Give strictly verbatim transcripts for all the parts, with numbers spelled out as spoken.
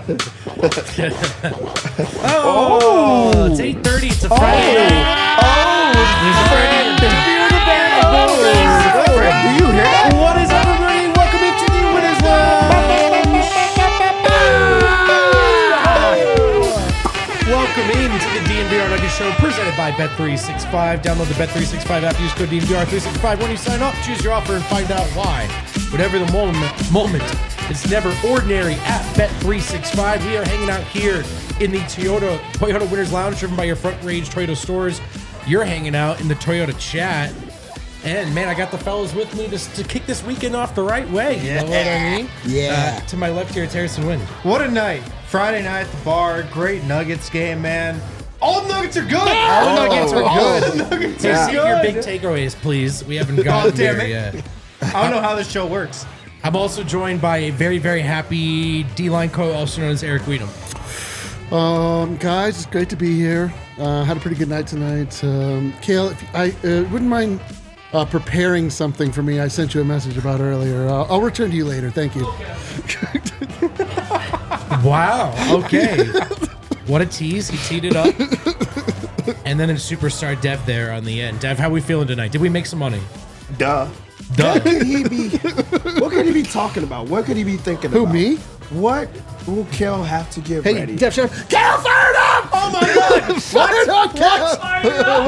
oh, it's eight thirty. It's a Friday night. Oh, There's a Friday night. Beer in the bag, boys. do you hear that? What is up, everybody? Welcome into the Winners Lounge. Welcome into the D N V R Nuggets Show presented by Bet three sixty-five. Download the Bet three sixty-five app. Use code D N V R three sixty-five when you sign up. Choose your offer and find out why. Whatever the moment, moment, it's never ordinary at Bet three sixty-five. We are hanging out here in the Toyota Toyota Winners Lounge, driven by your Front Range Toyota stores. You're hanging out in the Toyota chat. And, man, I got the fellas with me to, to kick this weekend off the right way. You know what I mean? Yeah. Uh, to my left here, it's Harrison Wind. What a night. Friday night at the bar. Great Nuggets game, man. All the Nuggets are good. All the Nuggets are Oh. good. The Nuggets Hey, are save your good. big takeaways, please. We haven't gotten Oh, damn there it. yet. I don't know how this show works. I'm also joined by a very, very happy D-line co, also known as Eric Weedham. Um, guys, it's great to be here. Uh, had a pretty good night tonight. Um, Kale, if I uh, wouldn't mind uh, preparing something for me, I sent you a message about earlier. Uh, I'll return to you later. Thank you. Wow. Okay. What a tease. He teed it up. And then a superstar Dev there on the end. Dev, how we feeling tonight? Did we make some money? Duh. Duh. What could he be? What could he be talking about? What could he be thinking Who, about? me? What will Kel have to get Hey, ready? Def, shut up. Kale, fire it up! Oh my God! Fire it up, Kale!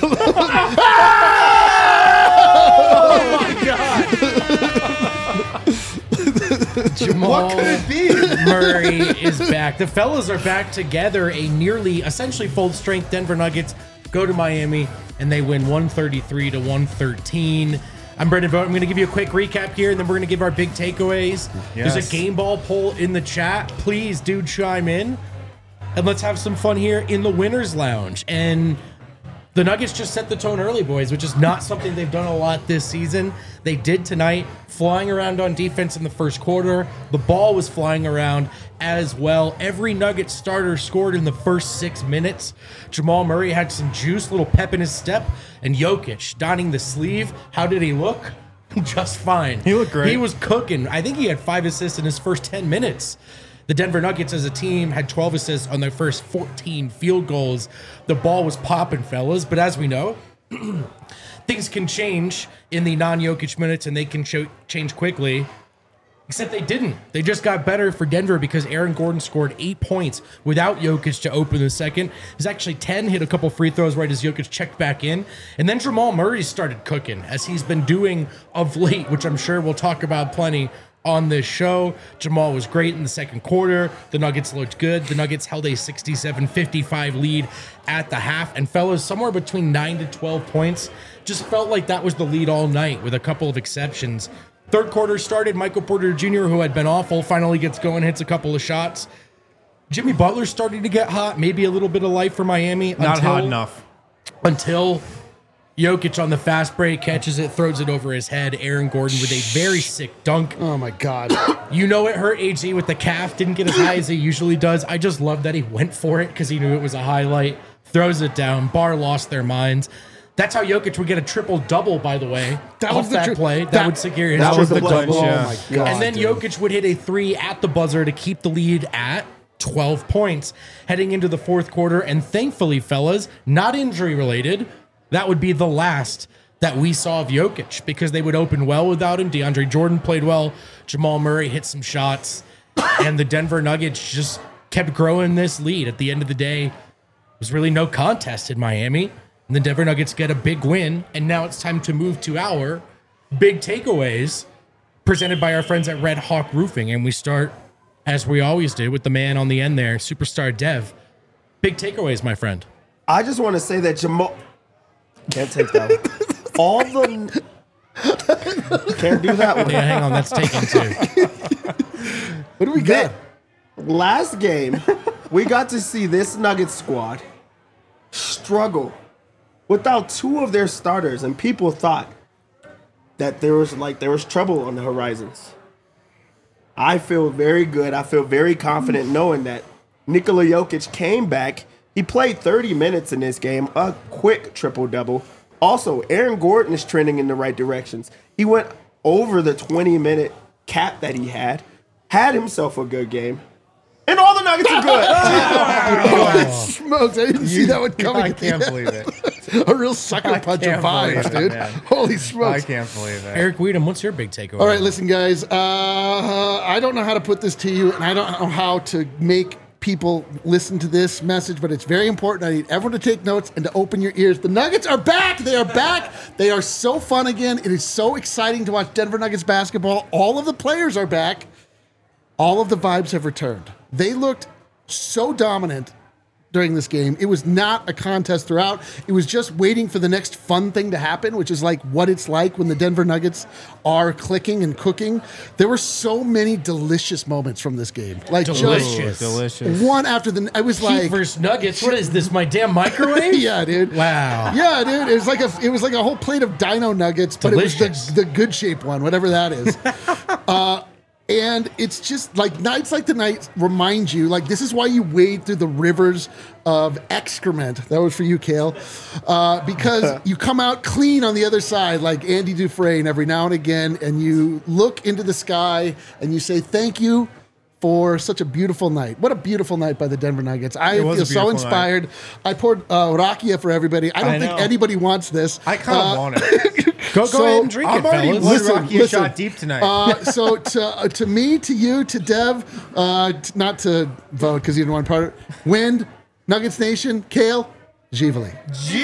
Jamal What could it be? Murray is back. The fellas are back together. A nearly, essentially full-strength Denver Nuggets go to Miami, and they win one thirty-three to one thirteen. I'm Brendan Vogt. I'm going to give you a quick recap here, and then we're going to give our big takeaways. There's Yes. a game ball poll in the chat. Please do chime in, and let's have some fun here in the Winners Lounge. And the Nuggets just set the tone early, boys, which is not something they've done a lot this season. They did tonight, flying around on defense in the first quarter. The ball was flying around as well. Every Nuggets starter scored in the first six minutes. Jamal Murray had some juice, little pep in his step. And Jokic donning the sleeve. How did he look? Just fine. He looked great. He was cooking. I think he had five assists in his first ten minutes. The Denver Nuggets as a team had twelve assists on their first fourteen field goals. The ball was popping, fellas. But as we know, things can change in the non-Jokic minutes, and they can show, change quickly. Except they didn't. They just got better for Denver because Aaron Gordon scored eight points without Jokic to open the second. It was actually ten, hit a couple free throws right as Jokic checked back in. And then Jamal Murray started cooking, as he's been doing of late, which I'm sure we'll talk about plenty on this show. Jamal was great in the second quarter. The Nuggets looked good. The Nuggets held a sixty-seven fifty-five lead at the half. And fellas, somewhere between nine to twelve points. Just felt like that was the lead all night with a couple of exceptions. Third quarter started. Michael Porter Junior, who had been awful, finally gets going, hits a couple of shots. Jimmy Butler starting to get hot. Maybe a little bit of life for Miami. Not until, hot enough. Until Jokic on the fast break catches it, throws it over his head. Aaron Gordon with a very sick dunk. Oh, my God. You know it hurt A G with the calf. Didn't get as high as he usually does. I just love that he went for it because he knew it was a highlight. Throws it down. Bar lost their minds. That's how Jokic would get a triple-double, by the way, That off was the that tri- play. That, that- would secure his that was the triple-double. clutch, yeah. Oh, my God. And then dude. Jokic would hit a three at the buzzer to keep the lead at twelve points heading into the fourth quarter. And thankfully, fellas, not injury-related, that would be the last that we saw of Jokic because they would open well without him. DeAndre Jordan played well. Jamal Murray hit some shots. And the Denver Nuggets just kept growing this lead. At the end of the day, it was really no contest in Miami. And the Denver Nuggets get a big win. And now it's time to move to our big takeaways presented by our friends at Red Hawk Roofing. And we start, as we always do, with the man on the end there, Superstar Dev. Big takeaways, my friend. I just want to say that Jamal can't take that one. All the can't do that one. Yeah, hang on, that's taken too. What do we got? Last game, we got to see this Nuggets squad struggle without two of their starters, and people thought that there was like there was trouble on the horizons. I feel very good. I feel very confident knowing that Nikola Jokic came back. He played thirty minutes in this game, a quick triple-double. Also, Aaron Gordon is trending in the right directions. He went over the twenty-minute cap that he had, had himself a good game. And Nuggets are good. Holy smokes! I didn't see that one coming. I at the can't end. believe it. A real sucker I punch of can't believe vibes, it, dude. man. Holy I smokes! can't believe it. Eric Weedham, what's your big takeaway? All right, listen, guys. Uh, I don't know how to put this to you, and I don't know how to make people listen to this message, but it's very important. I need everyone to take notes and to open your ears. The Nuggets are back. They are back. They are so fun again. It is so exciting to watch Denver Nuggets basketball. All of the players are back. All of the vibes have returned. They looked so dominant during this game. It was not a contest throughout. It was just waiting for the next fun thing to happen, which is like what it's like when the Denver Nuggets are clicking and cooking. There were so many delicious moments from this game. Like Delicious. Ooh, delicious. just one after the I was Heat like versus Nuggets. What is this? My damn microwave? yeah, dude. Wow. Yeah, dude. It was like a it was like a whole plate of dino nuggets, but Delicious. it was the, the good shape one, whatever that is. uh And it's just like nights like tonight remind you, like, this is why you wade through the rivers of excrement. That was for you, Kale. Uh, because you come out clean on the other side, like Andy Dufresne every now and again, and you look into the sky and you say, thank you for such a beautiful night. What a beautiful night by the Denver Nuggets. I It was feel a so beautiful inspired. I poured uh, rakia for everybody. I don't I think know. anybody wants this. I kind of Uh, want it. Go, go So, ahead and drink I'm it, already fellas. one Listen, Rocky listen. shot deep tonight. Uh, so to uh, to me, to you, to Dev, uh, t- not to vote because you didn't want part of it. Wind, Nuggets Nation, Kale, Givali.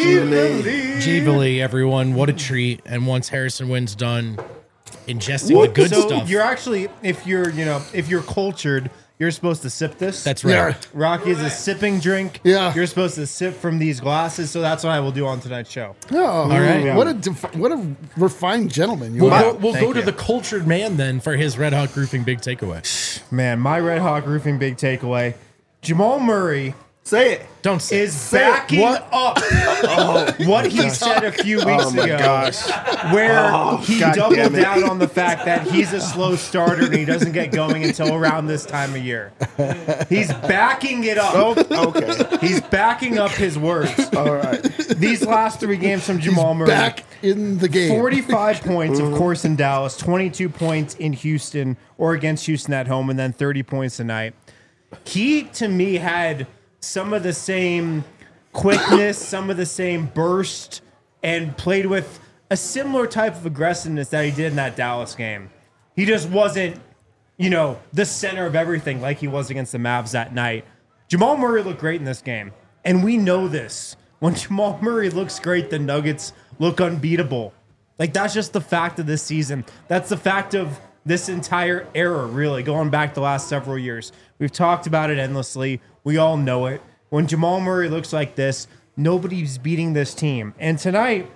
Givali, everyone. What a treat. And once Harrison Wynn's done ingesting the good so stuff. you're actually, if you're, you know, if you're cultured, you're supposed to sip this. That's right. Yeah. Rocky is a sipping drink. Yeah. You're supposed to sip from these glasses, so that's what I will do on tonight's show. Oh, All right. what a defi- what a refined gentleman you We'll, are. go, we'll Thank go to you. the cultured man then for his Red Hawk Roofing big takeaway. Man, my Red Hawk Roofing big takeaway. Jamal Murray Say it. Don't say is Say it. backing What? up what he said a few weeks Oh my ago, gosh. where Oh, he God doubled damn it. down on the fact that he's a slow starter and he doesn't get going until around this time of year. He's backing it up. Oh, okay. He's backing up his words. All right. These last three games from Jamal Murray. Back in the game. forty-five points, of course, in Dallas, twenty-two points in Houston or against Houston at home, and then thirty points tonight. He, to me, had some of the same quickness, some of the same burst, and played with a similar type of aggressiveness that he did in that Dallas game. He just wasn't, you know, the center of everything like he was against the Mavs that night. Jamal Murray looked great in this game, and we know this. When Jamal Murray looks great, the Nuggets look unbeatable. Like, that's just the fact of this season. That's the fact of this entire era, really, going back the last several years. We've talked about it endlessly. We all know it. When Jamal Murray looks like this, nobody's beating this team. And tonight,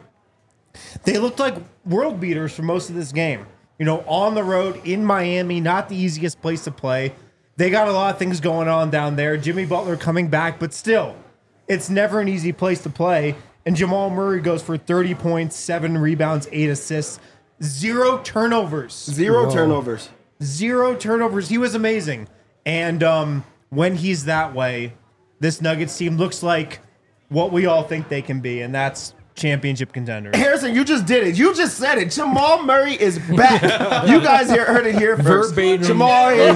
they looked like world beaters for most of this game. You know, on the road in Miami, not the easiest place to play. They got a lot of things going on down there. Jimmy Butler coming back, but still, it's never an easy place to play. And Jamal Murray goes for thirty points, seven rebounds, eight assists, zero turnovers. Zero turnovers. Zero turnovers. He was amazing. And um, when he's that way, this Nuggets team looks like what we all think they can be, and that's championship contenders. Harrison, you just did it. You just said it. Jamal Murray is back. You guys here heard it here first. Verbatim. Jamal is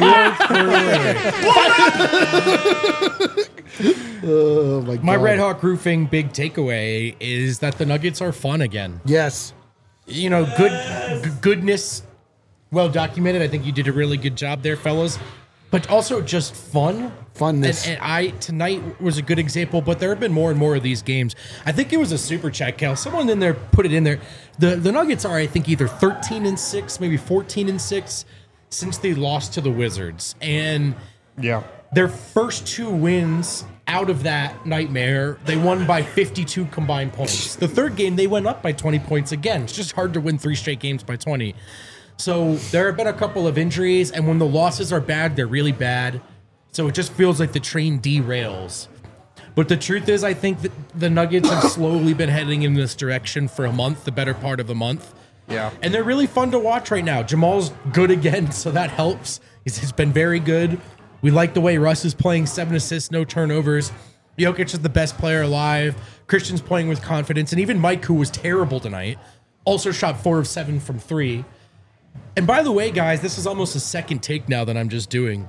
Oh my god. My Red Hawk Roofing big takeaway is that the Nuggets are fun again. Yes. You know, good g- goodness, well documented. I think you did a really good job there, fellas. But also just fun. Funness. And, and I tonight was a good example, but there have been more and more of these games. I think it was a super chat, Cal. Someone in there put it in there. The the Nuggets are, I think, either thirteen and six, maybe fourteen and six since they lost to the Wizards. And Yeah. their first two wins out of that nightmare, they won by fifty-two combined points. The third game, they went up by twenty points again. It's just hard to win three straight games by twenty. So there have been a couple of injuries, and when the losses are bad, they're really bad. So it just feels like the train derails. But the truth is, I think that the Nuggets have slowly been heading in this direction for a month, the better part of a month. Yeah. And they're really fun to watch right now. Jamal's good again, so that helps. He's, he's been very good. We like the way Russ is playing, seven assists, no turnovers. Jokic is the best player alive. Christian's playing with confidence. And even Mike, who was terrible tonight, also shot four of seven from three. And by the way, guys, this is almost a second take now that I'm just doing.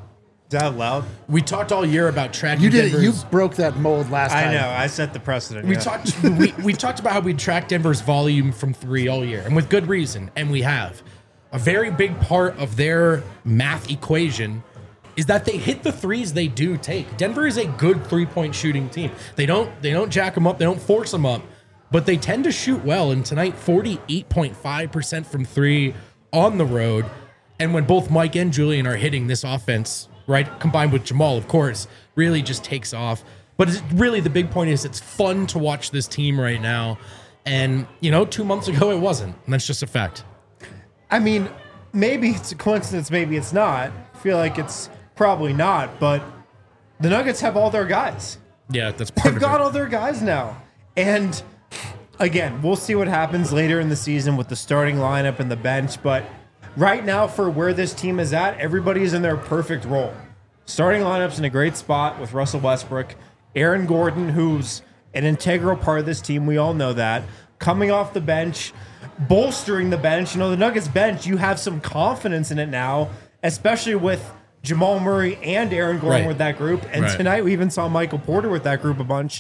that loud? We talked all year about tracking. You did it. You Denver's- broke that mold last time. I know. I set the precedent. We yeah. talked. we, we talked about how we tracked Denver's volume from three all year, and with good reason. And we have a very big part of their math equation is that they hit the threes they do take. Denver is a good three-point shooting team. They don't they don't jack them up. They don't force them up, but they tend to shoot well. And tonight, forty-eight point five percent from three on the road. And when both Mike and Julian are hitting, this offense, right, combined with Jamal, of course, really just takes off. But it's really the big point is it's fun to watch this team right now. And, you know, two months ago it wasn't. And that's just a fact. I mean, maybe it's a coincidence, maybe it's not. I feel like it's probably not, but the Nuggets have all their guys. Yeah, that's part They've of got it. all their guys now. And again, we'll see what happens later in the season with the starting lineup and the bench, but right now for where this team is at, everybody's in their perfect role. Starting lineup's in a great spot with Russell Westbrook, Aaron Gordon, who's an integral part of this team, we all know that, coming off the bench, bolstering the bench. You know, the Nuggets bench, you have some confidence in it now, especially with Jamal Murray and Aaron Gordon Right. with that group. And Right. tonight we even saw Michael Porter with that group a bunch.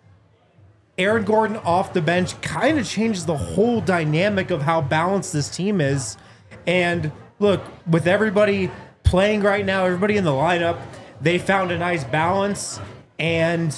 Aaron Gordon off the bench kind of changes the whole dynamic of how balanced this team is. And look, with everybody playing right now, everybody in the lineup, they found a nice balance. And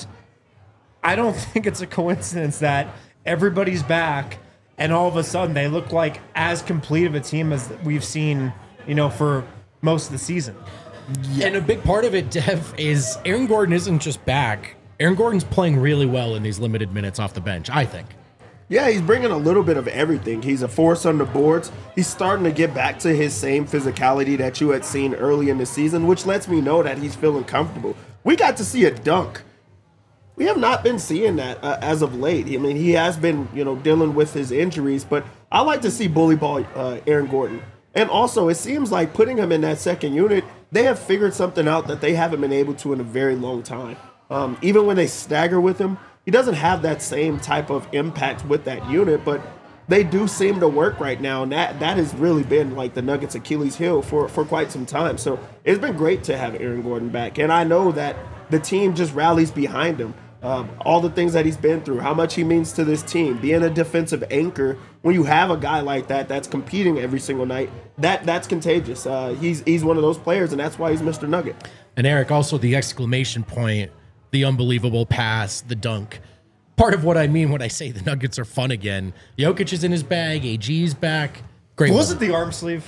I don't think it's a coincidence that everybody's back and all of a sudden they look like as complete of a team as we've seen, you know, for most of the season. And a big part of it, Dev, is Aaron Gordon isn't just back. Aaron Gordon's playing really well in these limited minutes off the bench, I think. Yeah, he's bringing a little bit of everything. He's a force on the boards. He's starting to get back to his same physicality that you had seen early in the season, which lets me know that he's feeling comfortable. We got to see a dunk. We have not been seeing that uh, as of late. I mean, he has been, you know, dealing with his injuries, but I like to see bully ball uh, Aaron Gordon. And also, it seems like putting him in that second unit, they have figured something out that they haven't been able to in a very long time. Um, even when they stagger with him, he doesn't have that same type of impact with that unit, but they do seem to work right now, and that that has really been like the Nuggets' Achilles heel for, for quite some time. So it's been great to have Aaron Gordon back, and I know that the team just rallies behind him. Um, all the things that he's been through, how much he means to this team, being a defensive anchor. When you have a guy like that that's competing every single night, that that's contagious. Uh, he's he's one of those players, and that's why he's Mister Nugget. And Eric, also the exclamation point, the unbelievable pass, the dunk. Part of what I mean when I say the Nuggets are fun again. Jokic is in his bag, A G's back. Great. Was one. it the arm sleeve?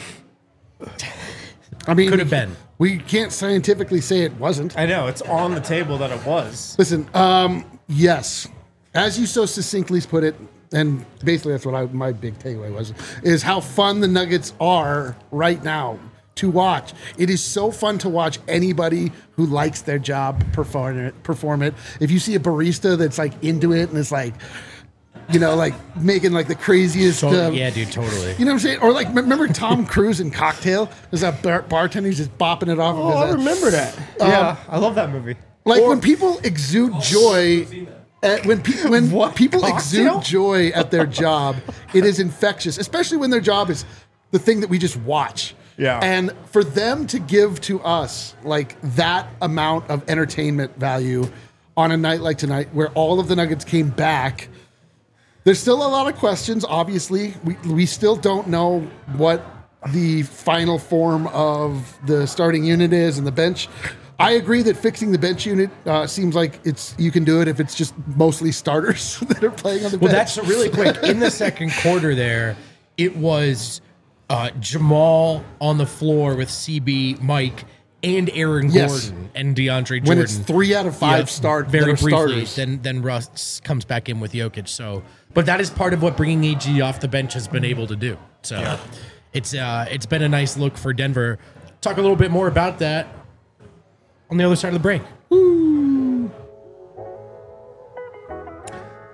I mean, Could have been. We can't scientifically say it wasn't. I know, it's on the table that it was. Listen, um, yes, as you so succinctly put it, and basically that's what I, my big takeaway was, is how fun the Nuggets are right now to watch. It is so fun to watch anybody who likes their job perform it. Perform it. If you see a barista that's like into it and it's like, you know, like making like the craziest. So, um, yeah, dude, totally. You know what I'm saying? Or like, remember Tom Cruise in Cocktail? There's that bar- bartender who's just bopping it off. Oh, of his I head. remember that. Yeah, I love that movie. Like when people exude joy, at, when pe- when What? people Cocktail? exude joy at their job, it is infectious. Especially when their job is the thing that we just watch. Yeah. And for them to give to us like that amount of entertainment value on a night like tonight, where all of the Nuggets came back, there's still a lot of questions. Obviously, we we still don't know what the final form of the starting unit is and the bench. I agree that fixing the bench unit uh, seems like it's you can do it if it's just mostly starters that are playing on the Well, bench. that's really quick. In the second quarter there, it was uh, Jamal on the floor with C B, Mike, and Aaron Yes. Gordon and DeAndre Jordan. when it's three out of five Yeah, start very that are briefly. starters. Then then Russ comes back in with Jokic. So, but that is part of what bringing A G off the bench has been able to do. So, it's uh, it's been a nice look for Denver. Talk a little bit more about that on the other side of the break.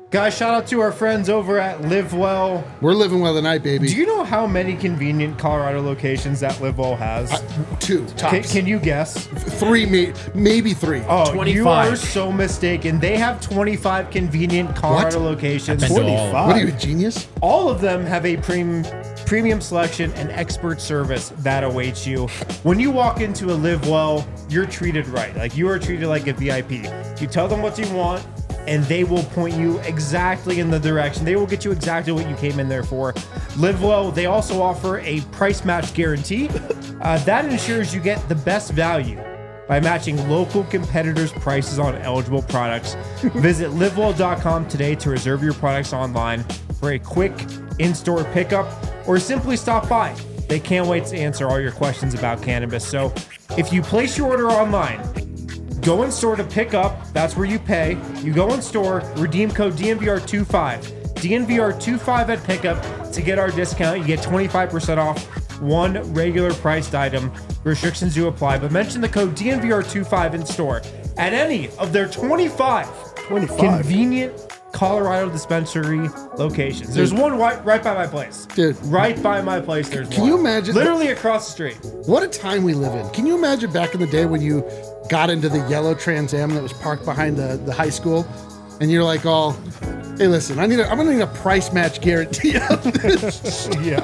Guys, shout out to our friends over at Live Well. We're living well tonight, baby. Do you know how many convenient Colorado locations that Live Well has? Uh, two Can, tops. can you guess? Three, may, maybe three. Oh, you twenty-five. are so mistaken. They have twenty-five convenient Colorado What? locations. I've been to all of them. What are you, a genius? All of them have a premium premium selection and expert service that awaits you. When you walk into a Live Well, you're treated right. Like you are treated like a V I P. You tell them what you want, and they will point you exactly in the direction. They will get you exactly what you came in there for. Live Well, they also offer a price match guarantee. Uh, that ensures you get the best value by matching local competitors' prices on eligible products. Visit live well dot com today to reserve your products online for a quick in-store pickup, or simply stop by. They can't wait to answer all your questions about cannabis. So if you place your order online, go in store to pick up. That's where you pay. You go in store, redeem code D N V R twenty-five. D N V R twenty-five at pickup to get our discount. You get twenty-five percent off one regular priced item. Restrictions do apply, but mention the code D N V R twenty-five in store at any of their twenty-five, twenty-five. convenient Colorado dispensary locations. There's one right, right by my place. Dude. Right by my place, there's Can one. you imagine- Literally across the street. What a time we live in. Can you imagine back in the day when you got into the yellow Trans Am that was parked behind the, the high school, and you're like, all, hey, listen, I need a, I'm gonna need a price match guarantee of this. Yeah.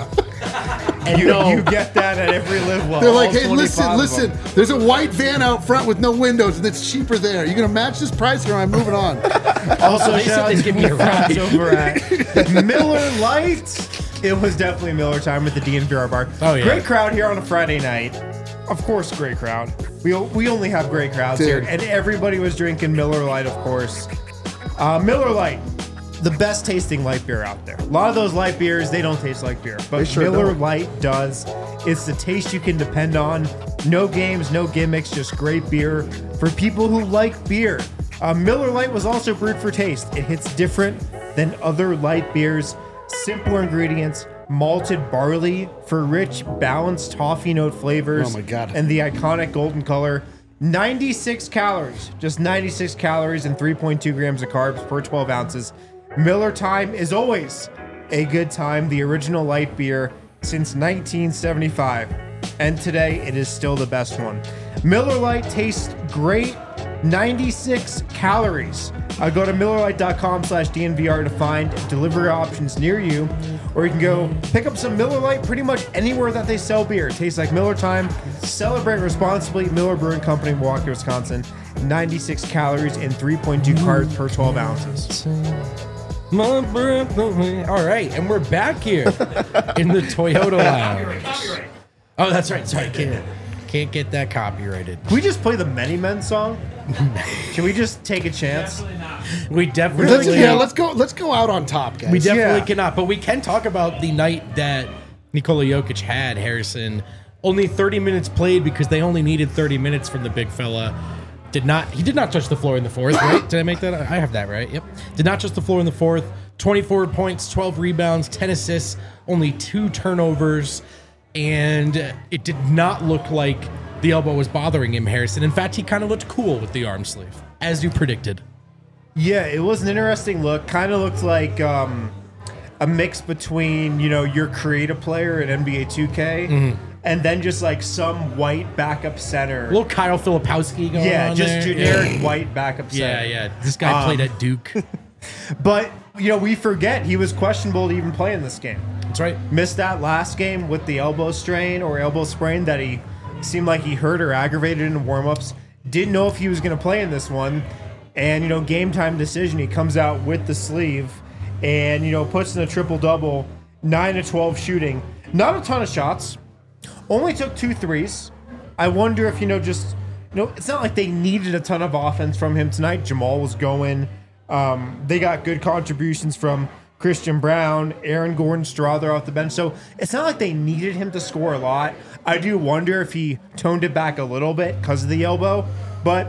And you, you get that at every Live Well. They're like, all hey, listen, twenty-five of listen, them. there's a white van out front with no windows and it's cheaper there. You're gonna match this price or am I moving on? Also, They said shout out they'd to give me the a ride. friends over at Miller Lite. It was definitely Miller time at the D N V R bar. Oh, yeah. Great crowd here on a Friday night. Of course, great crowd. We, we only have great crowds Dude. here. And everybody was drinking Miller Lite, of course. Uh, Miller Lite, the best tasting light beer out there. A lot of those light beers, they don't taste like beer. But They sure Miller don't. Lite does. It's the taste you can depend on. No games, no gimmicks, just great beer for people who like beer. Uh, Miller Lite was also brewed for taste. It hits different than other light beers. Simpler ingredients, malted barley for rich, balanced toffee note flavors. Oh my God. And the iconic golden color. ninety-six calories, just ninety-six calories and three point two grams of carbs per twelve ounces. Miller Time is always a good time. The original light beer since nineteen seventy-five. And today it is still the best one. Miller Lite tastes great. ninety-six calories. Uh, go to miller lite dot com slash D N V R to find delivery options near you, or you can go pick up some Miller Lite pretty much anywhere that they sell beer. It tastes like Miller Time. Celebrate responsibly. Miller Brewing Company, Milwaukee, Wisconsin. ninety-six calories and three point two carbs per twelve ounces. My breath away. All right, and we're back here in the Toyota Lounge. Oh, that's right. Sorry, can't, can't get that copyrighted. Can we just play the Many Men song? Can we just take a chance? We Let's, definitely, yeah, let's go. Let's go out on top, guys. we definitely Yeah. cannot. But we can talk about the night that Nikola Jokic had. Harrison only thirty minutes played because they only needed thirty minutes from the big fella. Did not he did not touch the floor in the fourth, right? Did I make that? I have that right. Yep. Did not touch the floor in the fourth. twenty-four points, twelve rebounds, ten assists, only two turnovers, and it did not look like the elbow was bothering him, Harrison. In fact, he kind of looked cool with the arm sleeve, as you predicted. Yeah, it was an interesting look. Kind of looked like um, a mix between, you know, your creative player in N B A two K Mm-hmm. and then just like some white backup center. A little Kyle Filipowski going yeah, on just there. generic Yeah. white backup Yeah, center. yeah. This guy Um, played at Duke. But, you know, we forget he was questionable to even play in this game. That's right. Missed that last game with the elbow strain or elbow sprain that he seemed like he hurt or aggravated in warmups. Didn't know if he was going to play in this one. And, you know, game time decision, he comes out with the sleeve and, you know, puts in a triple-double, nine to twelve shooting. Not a ton of shots. Only took two threes. I wonder if, you know, just, you know, it's not like they needed a ton of offense from him tonight. Jamal was going. Um, they got good contributions from Christian Brown, Aaron Gordon, Strother off the bench. So it's not like they needed him to score a lot. I do wonder if he toned it back a little bit because of the elbow. But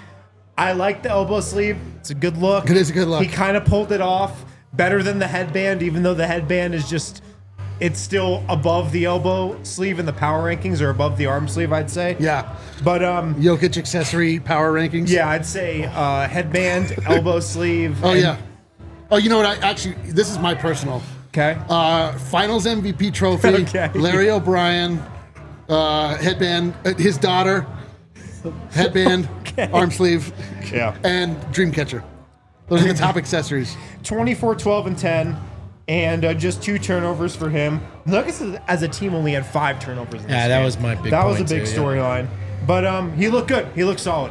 I like the elbow sleeve. It's a good look. It is a good look. He kind of pulled it off better than the headband, even though the headband is just, it's still above the elbow sleeve in the power rankings or above the arm sleeve, I'd say. Yeah. But um, Jokic accessory power rankings. yeah, I'd say uh, headband, elbow sleeve. Oh and yeah. Oh, you know what? I actually, this is my personal. Okay. Uh, Finals M V P trophy. Okay. Larry O'Brien, uh, headband, uh, his daughter, headband, Okay. arm sleeve, Yeah. and Dreamcatcher. Those are the top accessories. twenty-four, twelve, and ten, and uh, just two turnovers for him. Nuggets as a team only had five turnovers. In this Yeah, that game. was my big That was a point big too, yeah. storyline. But um, he looked good. He looked solid.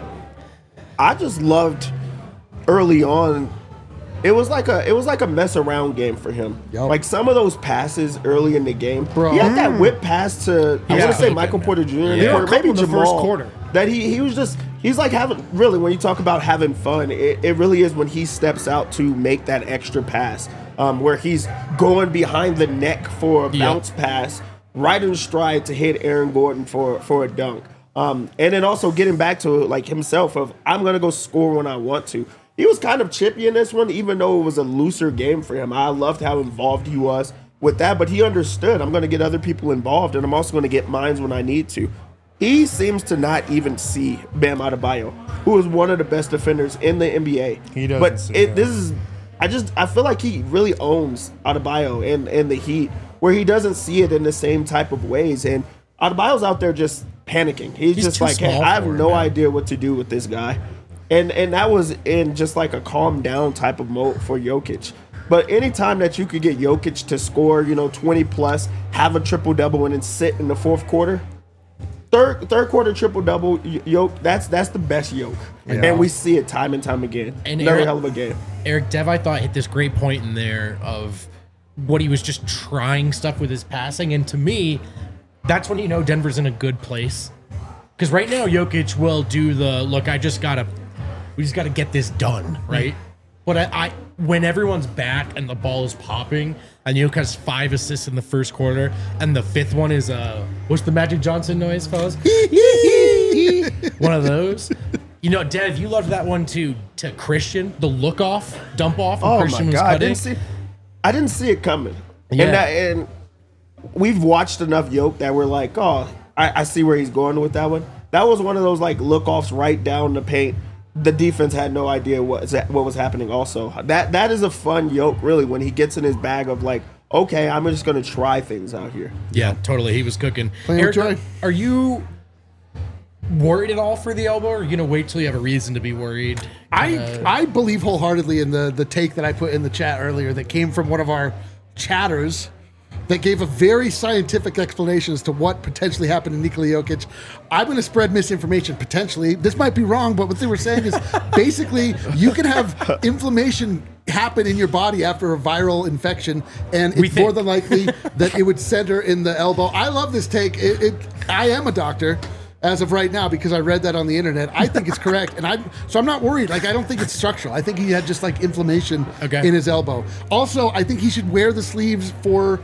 I just loved early on. It was like a it was like a mess around game for him. Yup. Like some of those passes early in the game, Bro. he had that whip pass to I Yeah. want to say Cooking, Michael man. Porter Junior in Yeah. the quarter, There were a maybe couple in the first Jamal. quarter. That he he was just he's like having really when you talk about having fun, it, it really is when he steps out to make that extra pass, um, where he's going behind the neck for a Yep. bounce pass, right in stride to hit Aaron Gordon for for a dunk. Um, and then also getting back to like himself of I'm gonna go score when I want to. He was kind of chippy in this one, even though it was a looser game for him. I loved how involved he was with that, but he understood I'm gonna get other people involved, and I'm also gonna get mines when I need to. He seems to not even see Bam Adebayo, who is one of the best defenders in the N B A. He doesn't But see it, him. this is, I just I feel like he really owns Adebayo and and the Heat, where he doesn't see it in the same type of ways. And Adebayo's out there just panicking. He's, He's just too like, hey, small I have for him, no man. idea what to do with this guy. And and that was in just like a calm down type of mode for Jokic. But anytime that you could get Jokic to score, you know, twenty plus, have a triple double, and then sit in the fourth quarter, third third quarter triple double, Yoke, that's that's the best Yoke, and we see it time and time again. And Another Eric- hell of a game. Eric Dev, I thought, hit this great point in there of what he was just trying stuff with his passing. And to me, that's when you know Denver's in a good place. Because right now, Jokic will do the, look, I just got to, we just got to get this done, right? But I, I, when everyone's back and the ball is popping, and Jokic has five assists in the first quarter, and the fifth one is, uh, what's the Magic Johnson noise, fellas? One of those. You know, Dev, you loved that one too, to Christian, the look off, dump off. when Oh Christian my was god, I cutting. didn't see, I didn't see it coming. Yeah. And that, and we've watched enough Yoke that we're like, oh, I, I see where he's going with that one. That was one of those like look offs right down the paint. The defense had no idea what what was happening. Also, that that is a fun Yoke really when he gets in his bag of like, okay, I'm just gonna try things out here. Yeah, totally. He was cooking. Playing with Eric, joy. are you worried at all for the elbow, or are you gonna wait till you have a reason to be worried? I Uh, I believe wholeheartedly in the the take that I put in the chat earlier that came from one of our chatters that gave a very scientific explanation as to what potentially happened to Nikola Jokic. I'm going to spread misinformation potentially. This might be wrong, but what they were saying is basically you can have inflammation happen in your body after a viral infection, and We it's more think. than likely that it would center in the elbow. I love this take. It, it I am a doctor. As of right now, because I read that on the internet, I think it's correct, and I so I'm not worried. Like I don't think it's structural. I think he had just like inflammation Okay. in his elbow. Also, I think he should wear the sleeves for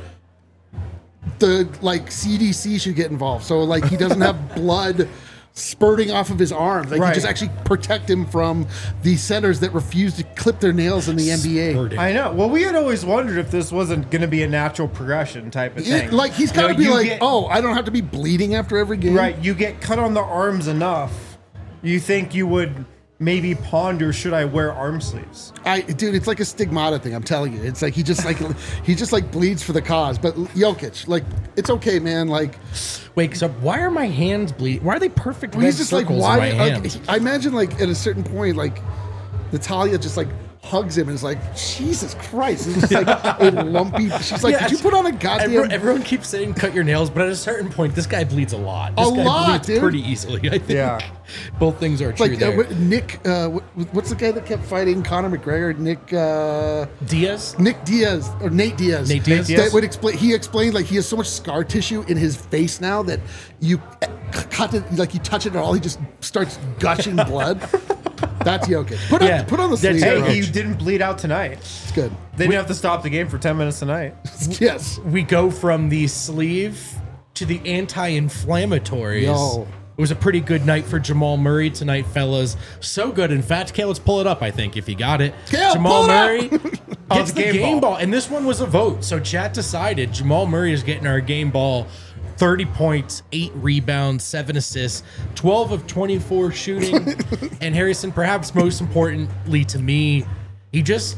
the like C D C should get involved. So like he doesn't have blood spurting off of his arms. Like Right. you just actually protect him from the centers that refuse to clip their nails in the N B A. Spurting. I know. Well, we had always wondered if this wasn't going to be a natural progression type of thing. It- like he's You got to know, be you like, get- oh, I don't have to be bleeding after every game. Right, you get cut on the arms enough, you think you would maybe ponder, should I wear arm sleeves? I, dude, it's like a stigmata thing. I'm telling you, it's like he just like he just like bleeds for the cause. But Jokic, like, it's okay, man. Like, Wait, so why are my hands bleeding? Why are they perfect? he's red just like, circles why? in my Like, hands? I imagine like at a certain point, like Natalia just like hugs him and is like, Jesus Christ, it's just like a lumpy. She's like, Yeah, did you put on a goddamn? Everyone, everyone keeps saying cut your nails, but at a certain point, this guy bleeds a lot. This A guy lot, bleeds dude. pretty easily. I think. Yeah. Both things are true like uh, there. what- Nick, uh, what, what's the guy that kept fighting Conor McGregor? Nick, uh, Diaz. Nick Diaz or Nate Diaz. Nate Diaz? That would explain. He explained like he has so much scar tissue in his face now that you cut it, like you touch it at all, he just starts gushing blood. That's Jokic. Put on, Yeah. put on the That's- sleeve. Hey, bro. he didn't bleed out tonight. It's good. They didn't have to stop the game for ten minutes tonight. Yes. We go from the sleeve to the anti-inflammatories. Yo. It was a pretty good night for Jamal Murray tonight, fellas. So good. In fact, Kale, let's pull it up, I think, if you got it. Kale, Jamal pull it Murray Oh, gets the the game game ball. ball. And this one was a vote. So chat decided Jamal Murray is getting our game ball. thirty points, eight rebounds, seven assists, twelve of twenty-four shooting. And Harrison, perhaps most importantly to me, he just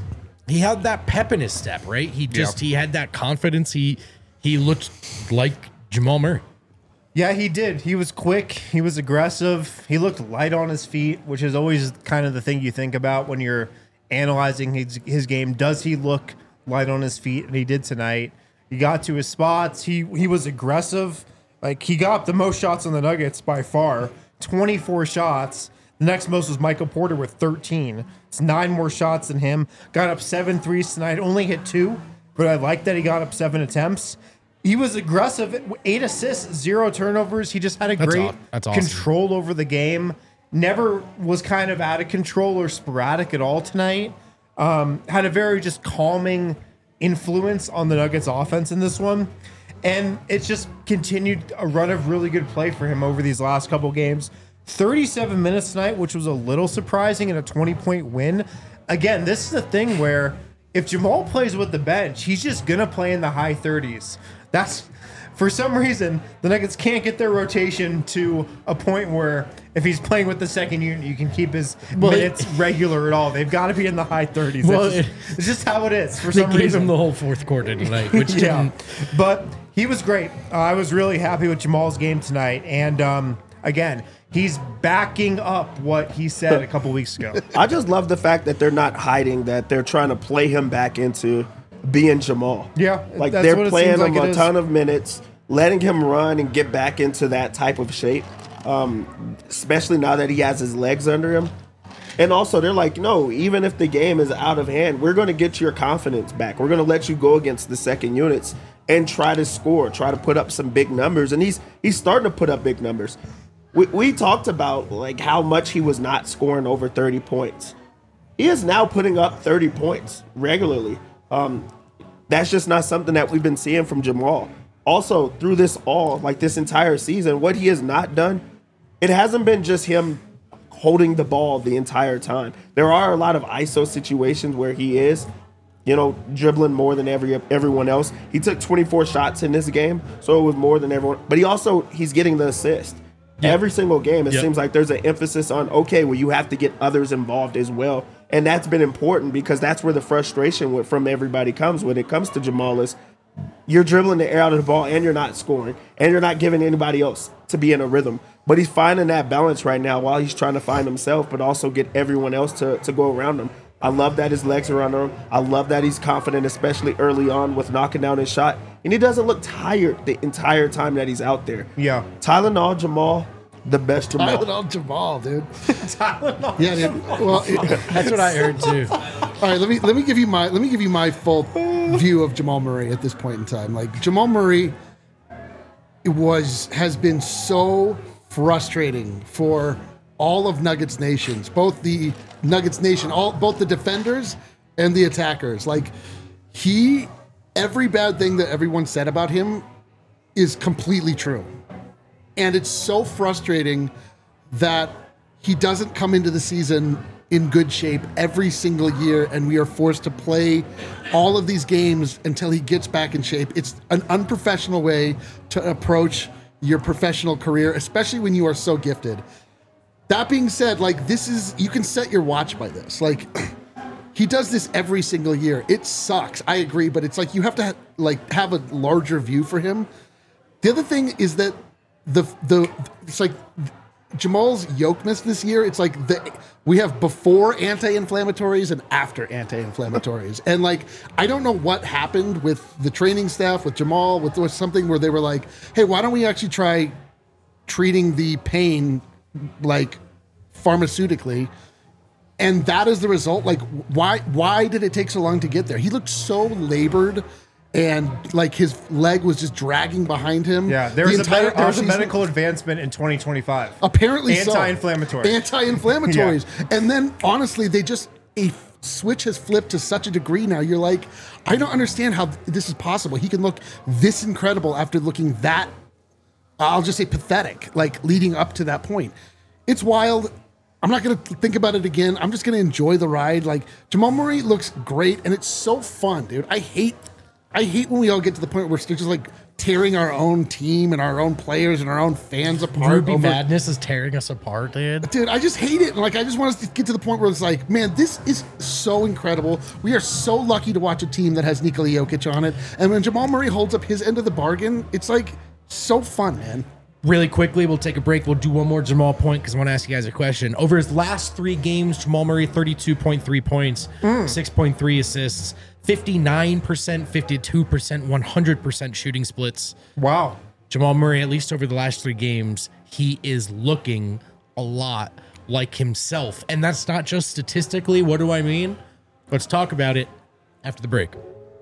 he had that pep in his step, right? He just he had that confidence. He he looked like Jamal Murray. Yeah, he did. He was quick. He was aggressive. He looked light on his feet, which is always kind of the thing you think about when you're analyzing his, his game. Does he look light on his feet? And he did tonight. He got to his spots. He he was aggressive. Like, he got the most shots on the Nuggets by far, twenty-four shots. The next most was Michael Porter with thirteen. It's nine more shots than him. Got up seven threes tonight. Only hit two, but I like that he got up seven attempts. He was aggressive. Eight assists, zero turnovers. He just had a That's great aw- that's awesome. control over the game. Never was kind of out of control or sporadic at all tonight. Um, had a very just calming influence on the Nuggets offense in this one. And it's just continued a run of really good play for him over these last couple games. thirty-seven minutes tonight, which was a little surprising in a twenty-point win. Again, this is the thing where if Jamal plays with the bench, he's just going to play in the high thirties. That's, for some reason, the Nuggets can't get their rotation to a point where if he's playing with the second unit, you can keep his Well, minutes regular at all. They've got to be in the high thirties. Well, That's just, it- it's just how it is for They some gave reason. him the whole fourth quarter tonight, which Yeah, didn't. but he was great. Uh, I was really happy with Jamal's game tonight. And um, again, he's backing up what he said a couple weeks ago. I just love the fact that they're not hiding that they're trying to play him back into being Jamal. Yeah, like that's they're what it playing seems him like it a is. ton of minutes, letting him run and get back into that type of shape. Um, especially now that he has his legs under him. And also, they're like, no, even if the game is out of hand, we're going to get your confidence back. We're going to let you go against the second units and try to score, try to put up some big numbers. And he's he's starting to put up big numbers. We, we talked about like how much he was not scoring over thirty points. He is now putting up thirty points regularly. Um, that's just not something that we've been seeing from Jamal. Also, through this all, like this entire season, what he has not done, it hasn't been just him holding the ball the entire time. There are a lot of I S O situations where he is, you know, dribbling more than every everyone else. He took twenty-four shots in this game, so it was more than everyone. But he also, he's getting the assist. Yep. Every single game, it Yep. seems like there's an emphasis on, okay, well, you have to get others involved as well. And that's been important because that's where the frustration with, from everybody comes when it comes to Jamal is you're dribbling the air out of the ball and you're not scoring and you're not giving anybody else to be in a rhythm. But he's finding that balance right now while he's trying to find himself, but also get everyone else to, to go around him. I love that his legs are under him. I love that he's confident, especially early on with knocking down his shot. And he doesn't look tired the entire time that he's out there. Yeah. Tylenol Jamal, the best Jamal. Tylenol Jamal, dude. Yeah, dude. Well, it- That's what I heard too. all right. Let me let me give you my let me give you my full view of Jamal Murray at this point in time. Like Jamal Murray, it was has been so frustrating for all of Nuggets nations, both the Nuggets nation, all both the defenders and the attackers. Like he, every bad thing that everyone said about him is completely true. And it's so frustrating that he doesn't come into the season in good shape every single year, and we are forced to play all of these games until he gets back in shape. It's an unprofessional way to approach your professional career, especially when you are so gifted. That being said, like this is, you can set your watch by this. Like he does this every single year. It sucks. I agree, but it's like you have to ha- like have a larger view for him. The other thing is that the the it's like Jamal's yokeness this year. It's like the we have before anti-inflammatories and after anti-inflammatories, and like I don't know what happened with the training staff with Jamal. With, with something where they were like, "Hey, why don't we actually try treating the pain like pharmaceutically?" And that is the result. Like, why why did it take so long to get there? He looked so labored. And like his leg was just dragging behind him. Yeah, there the was, a, entire med- there was a offseason. medical advancement in twenty twenty-five. Apparently so. Anti-inflammatory. Anti-inflammatories. And then honestly, they just a switch has flipped to such a degree now. You're like, I don't understand how this is possible. He can look this incredible after looking that, I'll just say pathetic, like leading up to that point. It's wild. I'm not going to think about it again. I'm just going to enjoy the ride. Like Jamal Murray looks great and it's so fun, dude. I hate I hate when we all get to the point where we're just like tearing our own team and our own players and our own fans apart. Ruby over- Madness is tearing us apart, dude. Dude, I just hate it. And like, I just want us to get to the point where it's like, man, this is so incredible. We are so lucky to watch a team that has Nikola Jokic on it. And when Jamal Murray holds up his end of the bargain, it's like so fun, man. Really quickly, we'll take a break. We'll do one more Jamal point because I want to ask you guys a question. Over his last three games, Jamal Murray, thirty-two point three points, six point three assists, fifty-nine percent, fifty-two percent, one hundred percent shooting splits. Wow. Jamal Murray, at least over the last three games, he is looking a lot like himself. And that's not just statistically. What do I mean? Let's talk about it after the break.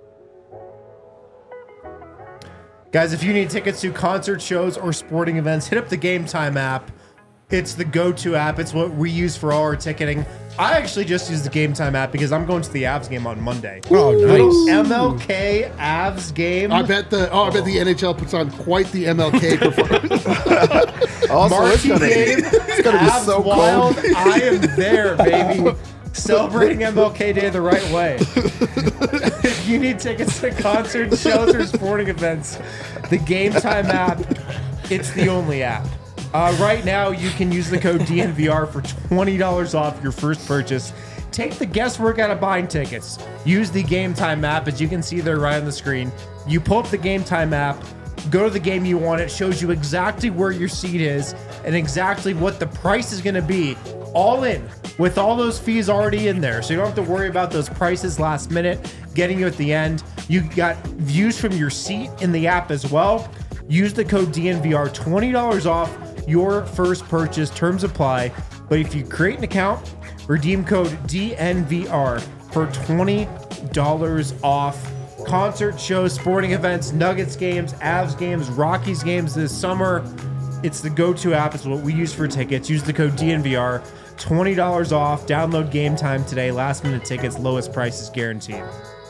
Guys, if you need tickets to concert shows or sporting events, hit up the Game Time app. It's the go-to app. It's what we use for all our ticketing. I actually just use the Game Time app because I'm going to the Avs game on Monday. Oh, nice. M L K Avs game. I bet the oh, I bet the N H L puts on quite the M L K performance. Also, it's Marquee gonna, game. it's gonna be Avs so Wild. cold. I am there, baby. Celebrating M L K Day the right way. If you need tickets to concerts, shows, or sporting events, the Game Time app, it's the only app. Uh, right now, you can use the code D N V R for twenty dollars off your first purchase. Take the guesswork out of buying tickets. Use the Game Time app, as you can see there right on the screen. You pull up the Game Time app, go to the game you want. It shows you exactly where your seat is and exactly what the price is going to be, all in, with all those fees already in there. So you don't have to worry about those prices last minute getting you at the end. You got views from your seat in the app as well. Use the code D N V R, twenty dollars off your first purchase. Terms apply. But if you create an account, redeem code D N V R for twenty dollars off. Concert shows, sporting events, Nuggets games, Avs games, Rockies games this summer. It's the go-to app. It's what we use for tickets. Use the code D N V R. twenty dollars off. Download Game Time today. Last minute tickets, lowest prices guaranteed.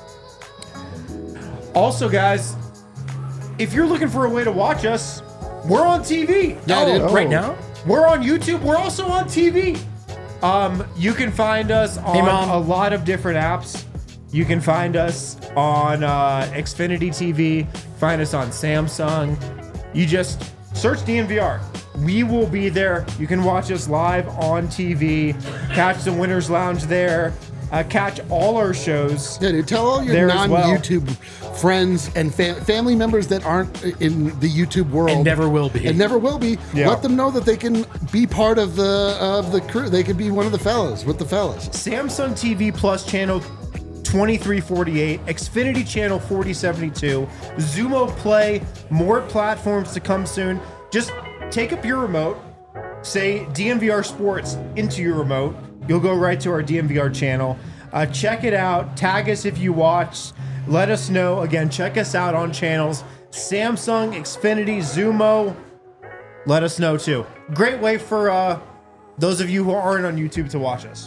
Also, guys, if you're looking for a way to watch us, we're on T V. Yeah, dude. Right now? We're on YouTube. We're also on T V. Um, you can find us on Mom. a lot of different apps. You can find us on uh, Xfinity T V. Find us on Samsung. You just search D N V R. We will be there. You can watch us live on T V. Catch the Winners Lounge there. Uh, catch all our shows. Yeah, dude, tell all your There as well. non-YouTube friends and fa- family members that aren't in the YouTube world And never will be. and never will be. Yeah. Let them know that they can be part of the of the crew. They can be one of the fellas with the fellas. Samsung T V Plus channel twenty-three forty-eight, Xfinity channel forty seventy-two, Zumo Play, more platforms to come soon. Just take up your remote, say D N V R Sports into your remote. You'll go right to our D N V R channel. Uh, check it out. Tag us if you watch. Let us know. Again, check us out on channels Samsung, Xfinity, Zumo. Let us know too. Great way for uh, those of you who aren't on YouTube to watch us.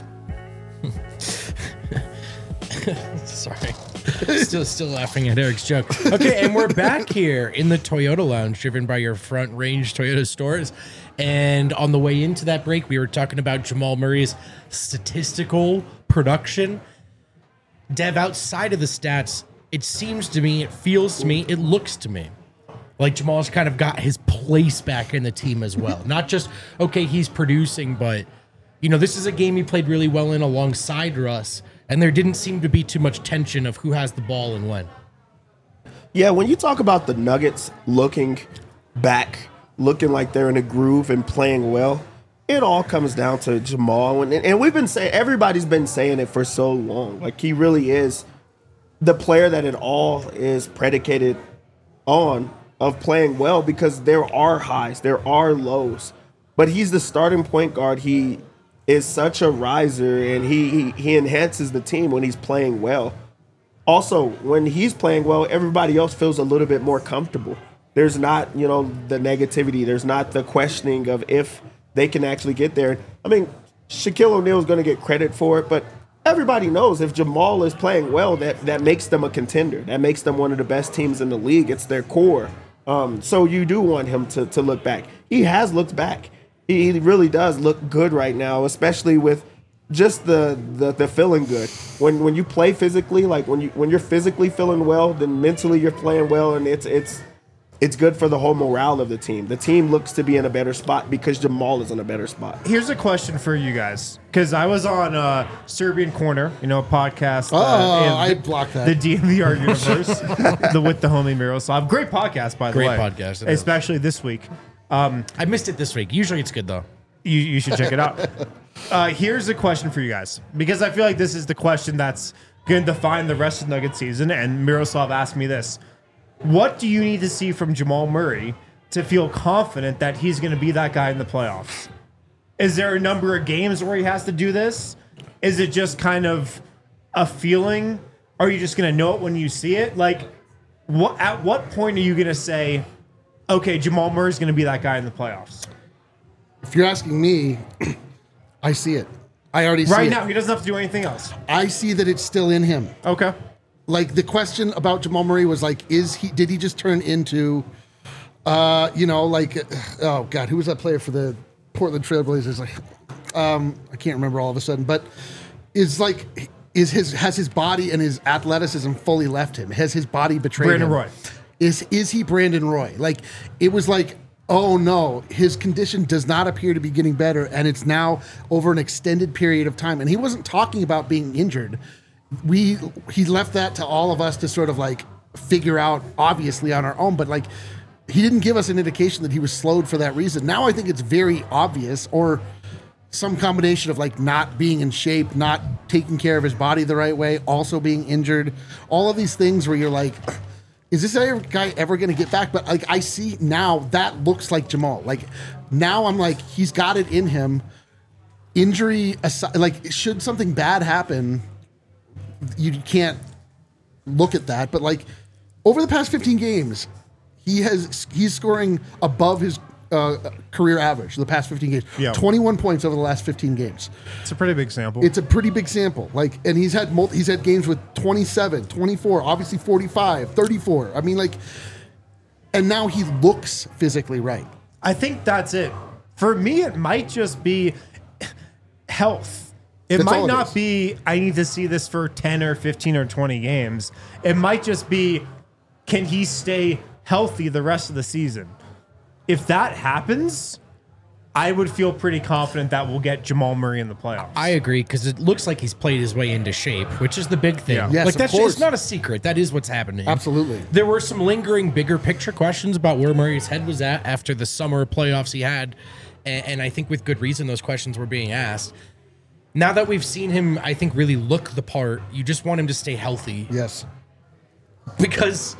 Sorry. Still still laughing at Eric's joke. Okay, and we're back here in the Toyota Lounge, driven by your Front Range Toyota stores. And on the way into that break, we were talking about Jamal Murray's statistical production. Dev, outside of the stats, it seems to me, it feels to me, it looks to me like Jamal's kind of got his place back in the team as well. Not just, okay, he's producing, but, you know, this is a game he played really well in alongside Russ, and there didn't seem to be too much tension of who has the ball and when. Yeah, when you talk about the Nuggets looking back, looking like they're in a groove and playing well, it all comes down to Jamal. And, and we've been saying, everybody's been saying it for so long. Like, he really is the player that it all is predicated on, of playing well, because there are highs, there are lows. But he's the starting point guard. He is such a riser, and he, he, he enhances the team when he's playing well. Also, when he's playing well, everybody else feels a little bit more comfortable. There's not, you know, the negativity. There's not the questioning of if they can actually get there. I mean, Shaquille O'Neal is going to get credit for it, but everybody knows if Jamal is playing well, that, that makes them a contender. That makes them one of the best teams in the league. It's their core. Um, so you do want him to, to look back. He has looked back. He, he really does look good right now, especially with just the, the the feeling good. When when you play physically, like when you when you're physically feeling well, then mentally you're playing well, and it's it's it's good for the whole morale of the team. The team looks to be in a better spot because Jamal is in a better spot. Here's a question for you guys, because I was on uh, Serbian Corner, you know, a podcast. Oh, uh, in I the, blocked that. The D M V R universe, the with the homie Miroslav. Great podcast, by the Great way. podcast, it is. especially this week. I missed it this week. Usually it's good though. You, you should check it out. Uh, here's a question for you guys, because I feel like this is the question that's going to define the rest of the Nugget season. And Miroslav asked me this. What do you need to see from Jamal Murray to feel confident that he's going to be that guy in the playoffs? Is there a number of games where he has to do this? Is it just kind of a feeling? Are you just going to know it when you see it? Like, what? At what point are you going to say, okay, Jamal Murray's going to be that guy in the playoffs? If you're asking me, I see it. I already see Right it. now, he doesn't have to do anything else. I see that it's still in him. Okay. Like the question about Jamal Murray was like, is he? Did he just turn into, uh, you know, like, oh God, who was that player for the Portland Trailblazers? Like, um, I can't remember all of a sudden, but is like, is his has his body and his athleticism fully left him? Has his body betrayed Brandon him? Roy. Is is he Brandon Roy? Like, it was like, oh no, his condition does not appear to be getting better, and it's now over an extended period of time. And he wasn't talking about being injured. We he left that to all of us to sort of like figure out, obviously on our own, but like he didn't give us an indication that he was slowed for that reason. Now I think it's very obvious, or some combination of like not being in shape, not taking care of his body the right way, also being injured, all of these things where you're like, is this guy ever going to get back? But like I see now that looks like Jamal. Like now I'm like, he's got it in him. Injury aside, like should something bad happen, you can't look at that, but like over the past fifteen games, he has he's scoring above his uh, career average. The past fifteen games, Yeah. twenty-one points over the last fifteen games. It's a pretty big sample. It's a pretty big sample. Like, and he's had multi, he's had games with twenty-seven, twenty-four, obviously forty-five, thirty-four. I mean, like, and now he looks physically right. I think that's it. For me, it might just be health. It That's might all it not is. be, I need to see this for ten or fifteen or twenty games. It might just be, can he stay healthy the rest of the season? If that happens, I would feel pretty confident that we'll get Jamal Murray in the playoffs. I agree, because it looks like he's played his way into shape, which is the big thing. Yeah. Yes, like of that's course. it's not a secret. That is what's happening. Absolutely. There were some lingering, bigger picture questions about where Murray's head was at after the summer playoffs he had, and, and I think with good reason those questions were being asked. Now that we've seen him, I think, really look the part, you just want him to stay healthy. Yes. Because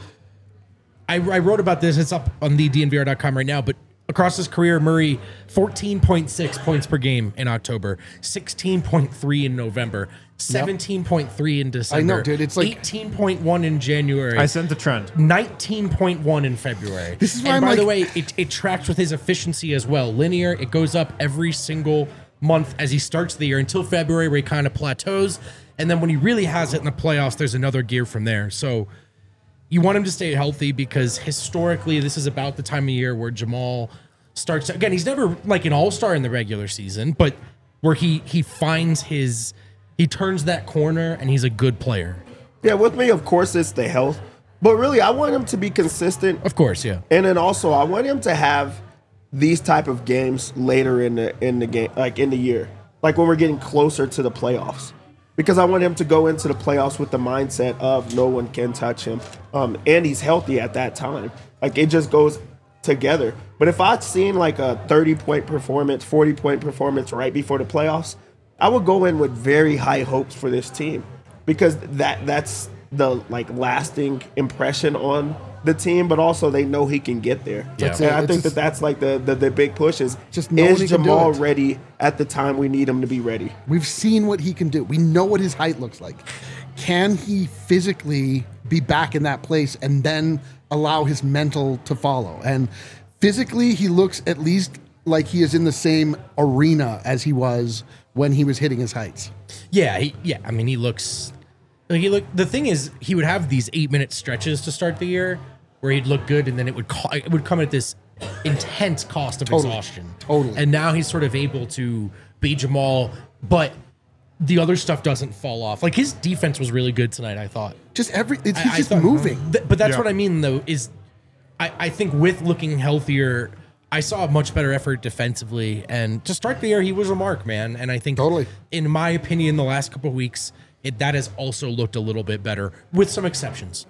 I, I wrote about this. It's up on the D N V R dot com right now. But across his career, Murray, fourteen point six points per game in October, sixteen point three in November, seventeen point three in December. I know, dude. It's like- eighteen point one in January. I sent the trend. nineteen point one in February. This is why and I'm by the like- way, it, it tracks with his efficiency as well. Linear, it goes up every single month as he starts the year until February, where he kind of plateaus. And then when he really has it in the playoffs, there's another gear from there. So you want him to stay healthy, because historically, this is about the time of year where Jamal starts. Again, he's never like an all-star in the regular season, but where he he finds his, he turns that corner and he's a good player. Yeah, with me, of course, it's the health. But really, I want him to be consistent. Of course, yeah. And then also, I want him to have these type of games later in the in the game, like in the year, like when we're getting closer to the playoffs, because I want him to go into the playoffs with the mindset of no one can touch him, um, and he's healthy at that time. Like it just goes together. But if I'd seen like a thirty point performance, forty point performance right before the playoffs, I would go in with very high hopes for this team, because that that's the like lasting impression on the team, but also they know he can get there. That's And it. I It's think just- that that's like the, the the big push is Just knowing is he can do Jamal it. ready at the time we need him to be ready? We've seen what he can do. We know what his height looks like. Can he physically be back in that place and then allow his mental to follow? And physically, he looks at least like he is in the same arena as he was when he was hitting his heights. Yeah, he, yeah. I mean, he looks like he look. The thing is, he would have these eight minute stretches to start the year where he'd look good, and then it would co- it would come at this intense cost of Totally. exhaustion. Totally. And now he's sort of able to be Jamal, but the other stuff doesn't fall off. Like his defense was really good tonight, I thought. Just every, it's, I- he's I just thought- moving. Th- but that's Yeah. what I mean, though, is I, I think with looking healthier, I saw a much better effort defensively. And to start the year, he was a mark, man. And I think, Totally. in my opinion, the last couple of weeks, it, that has also looked a little bit better, with some exceptions.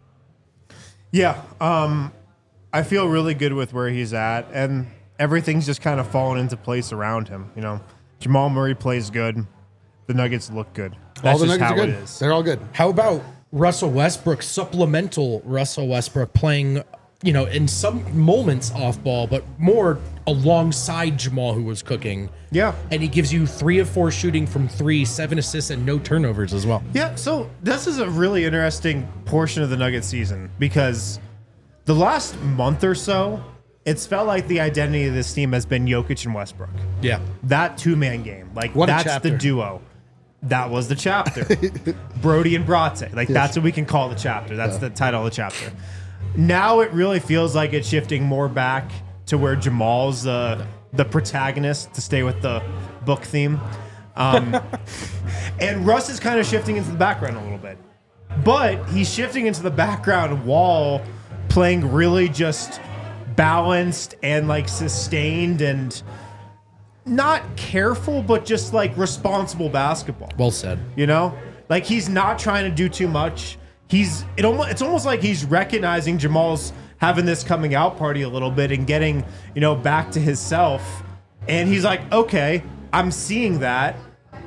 Yeah, um, I feel really good with where he's at, and everything's just kind of fallen into place around him. You know, Jamal Murray plays good. The Nuggets look good. That's all the just Nuggets how are good. it is. They're all good. How about Russell Westbrook, supplemental Russell Westbrook playing, you know, in some moments off ball, but more alongside Jamal, who was cooking. Yeah. And he gives you three of four shooting from three, seven assists, and no turnovers as well. Yeah, so this is a really interesting portion of the Nuggets season because the last month or so, it's felt like the identity of this team has been Jokic and Westbrook. Yeah. That two-man game. Like, What a that's chapter. the duo. That was the chapter. Brody and Bratze. Like, that's what we can call the chapter. That's the title of the chapter. Now it really feels like it's shifting more back to where Jamal's uh, the protagonist, to stay with the book theme. Um, and Russ is kind of shifting into the background a little bit. But he's shifting into the background while playing really just balanced and like sustained and not careful, but just like responsible basketball. Well said. You know, like he's not trying to do too much. He's it almost it's almost like he's recognizing Jamal's having this coming out party a little bit and getting, you know, back to his self. And he's like, okay, I'm seeing that.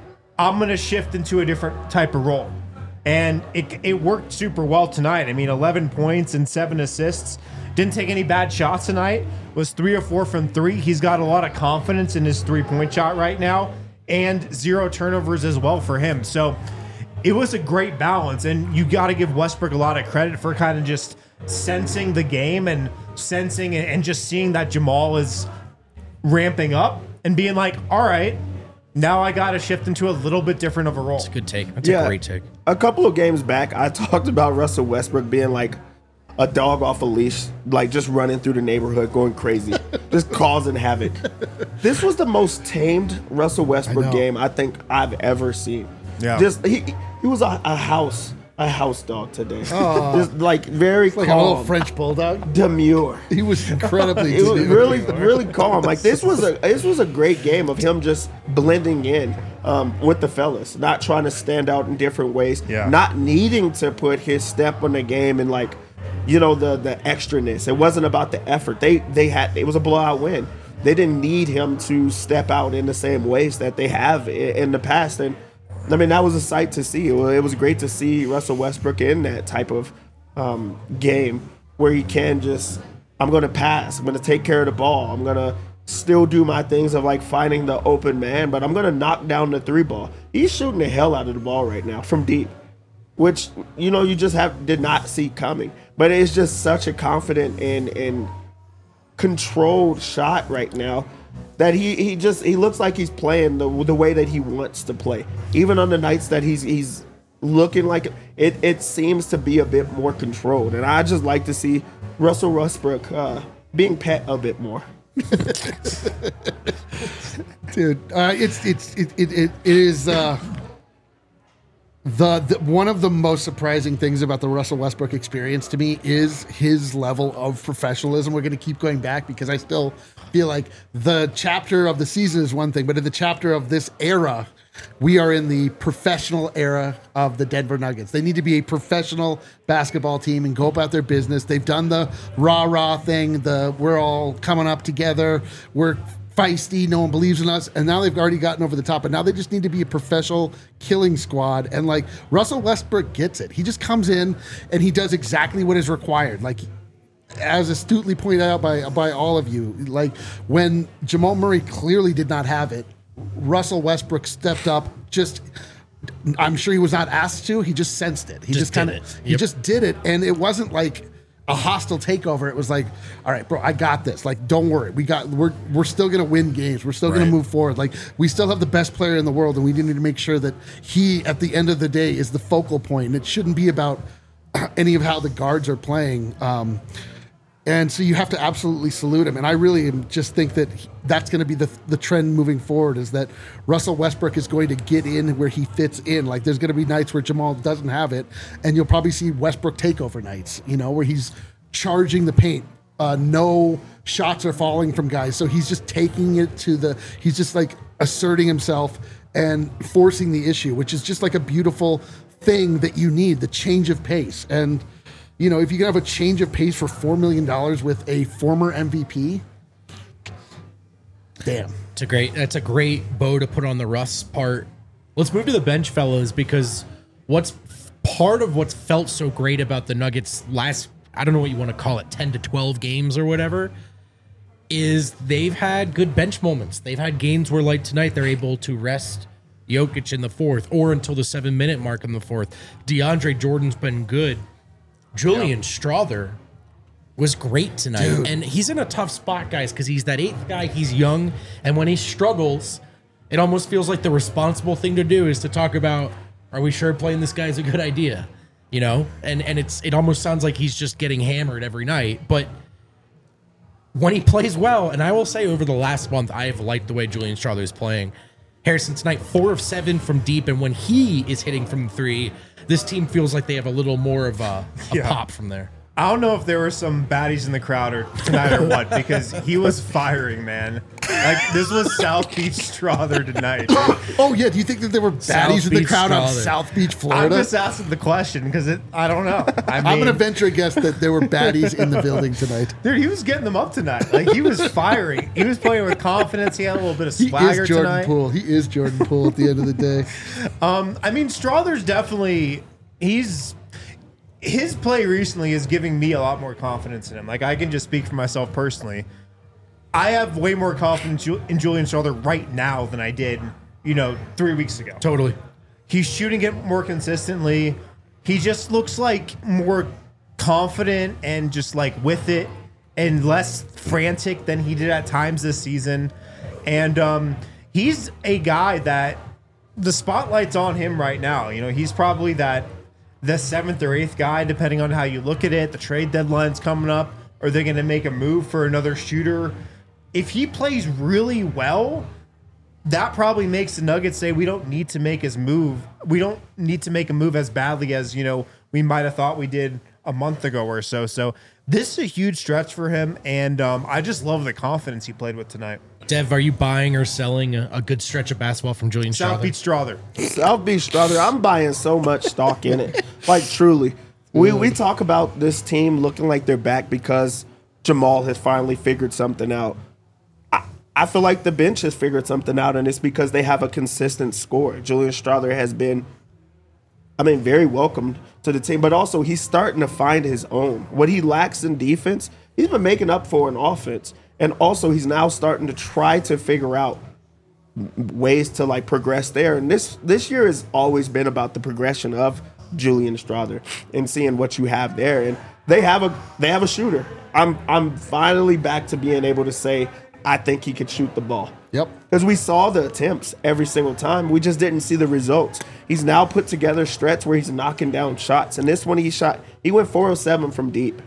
I'm gonna shift into a different type of role. And it it worked super well tonight. I mean, eleven points and seven assists. Didn't take any bad shots tonight. Was three or four from three. He's got a lot of confidence in his three-point shot right now, and zero turnovers as well for him. So it was a great balance, and you got to give Westbrook a lot of credit for kind of just sensing the game and sensing and just seeing that Jamal is ramping up and being like, all right, now I got to shift into a little bit different of a role. That's a good take. That's Yeah. a great take. A couple of games back, I talked about Russell Westbrook being like a dog off a leash, like just running through the neighborhood, going crazy, just causing havoc. This was the most tamed Russell Westbrook know. game I think I've ever seen. Yeah. Just he he was a, a house a house dog today. Just like very Like calm, a little French bulldog. demure. He was incredibly. It was demure. really, really calm. Like this was a this was a great game of him just blending in um, with the fellas, not trying to stand out in different ways, Yeah. not needing to put his step on the game and like, you know, the the extraness. It wasn't about the effort. They they had it was a blowout win. They didn't need him to step out in the same ways that they have in, in the past. And I mean, that was a sight to see. It was, it was great to see Russell Westbrook in that type of um, game where he can just, I'm going to pass. I'm going to take care of the ball. I'm going to still do my things of like finding the open man, but I'm going to knock down the three ball. He's shooting the hell out of the ball right now from deep, which, you know, you just have did not see coming. But it's just such a confident and, and controlled shot right now that he, he just he looks like he's playing the the way that he wants to play. Even on the nights that he's he's looking like it, it seems to be a bit more controlled. And I just like to see Russell Westbrook uh, being pet a bit more. Dude, uh, it's it's it it, it is uh, the, the one of the most surprising things about the Russell Westbrook experience to me is his level of professionalism. We're going to keep going back because I still feel like the chapter of the season is one thing, but in the chapter of this era, we are in the professional era of the Denver Nuggets. They need to be a professional basketball team and go about their business. They've done the rah-rah thing, the we're all coming up together, we're feisty, no one believes in us, and now they've already gotten over the top, and now they just need to be a professional killing squad. And like Russell Westbrook gets it. He just comes in and he does exactly what is required. Like, as astutely pointed out by by all of you, like when Jamal Murray clearly did not have it, Russell Westbrook stepped up. Just, I'm sure he was not asked to. He just sensed it. He Just just, kind did of, it. he Yep. just did it, and it wasn't like a hostile takeover. It was like, all right, bro, I got this. Like, don't worry, we got. We're we're still gonna win games. We're still Right. gonna move forward. Like, we still have the best player in the world, and we need to make sure that he, at the end of the day, is the focal point. And it shouldn't be about any of how the guards are playing. Um, And so you have to absolutely salute him. And I really am- just think that he- that's going to be the the trend moving forward, is that Russell Westbrook is going to get in where he fits in. Like, there's going to be nights where Jamal doesn't have it, and you'll probably see Westbrook takeover nights, you know, where he's charging the paint. Uh, no shots are falling from guys, so he's just taking it to the. He's just like asserting himself and forcing the issue, which is just like a beautiful thing that you need, the change of pace. And you know, if you can have a change of pace for four million dollars with a former M V P, damn, it's a great. That's a great bow to put on the Russ part. Let's move to the bench, fellas, because what's part of what's felt so great about the Nuggets last, I don't know what you want to call it, ten to twelve games or whatever, is they've had good bench moments. They've had games where, like tonight, they're able to rest Jokic in the fourth or until the seven minute mark in the fourth. DeAndre Jordan's been good. Julian yeah. Strawther was great tonight. Dude. And he's in a tough spot, guys, because he's that eighth guy. He's young. And when he struggles, it almost feels like the responsible thing to do is to talk about, are we sure playing this guy is a good idea? You know, and and it's it almost sounds like he's just getting hammered every night. But when he plays well, and I will say over the last month, I have liked the way Julian Strawther is playing. Harrison tonight, four of seven from deep, and when he is hitting from three, this team feels like they have a little more of a, a yeah. pop from there. I don't know if there were some baddies in the crowd or tonight or what, because he was firing, man. Like, this was South Beach Strawther tonight. Oh, yeah. Do you think that there were baddies South in the Beach crowd on Strawther. South Beach, Florida? I'm just asking the question because it. I don't know. I mean, I'm going to venture a guess that there were baddies in the building tonight. Dude, he was getting them up tonight. Like, he was firing. He was playing with confidence. He had a little bit of swagger he is Jordan tonight. Poole. He is Jordan Poole at the end of the day. Um, I mean, Strawther's definitely. He's. His play recently is giving me a lot more confidence in him. Like, I can just speak for myself personally. I have way more confidence in Julian Strawther right now than I did, you know, three weeks ago. Totally. He's shooting it more consistently. He just looks like more confident and just like with it and less frantic than he did at times this season. And um, he's a guy that the spotlight's on him right now. You know, he's probably that the seventh or eighth guy, depending on how you look at it. The trade deadline's coming up. Are they going to make a move for another shooter? If he plays really well, that probably makes the Nuggets say we don't need to make his move. We don't need to make a move as badly as, you know, we might have thought we did a month ago or so. So this is a huge stretch for him, and um, I just love the confidence he played with tonight. Dev, are you buying or selling a, a good stretch of basketball from Julian South Strawther? Beach Strawther. South Beach Strawther, I'm buying so much stock in it. Like, truly. We we talk about this team looking like they're back because Jamal has finally figured something out. I, I feel like the bench has figured something out, and it's because they have a consistent score. Julian Strawther has been, I mean, very welcomed to the team, but also he's starting to find his own. What he lacks in defense, he's been making up for in offense. And also, he's now starting to try to figure out ways to like progress there. And this this year has always been about the progression of Julian Strawther and seeing what you have there. And they have a they have a shooter. I'm I'm finally back to being able to say I think he could shoot the ball. Yep. Because we saw the attempts every single time. We just didn't see the results. He's now put together stretch where he's knocking down shots. And this one he shot, he went four oh seven from deep.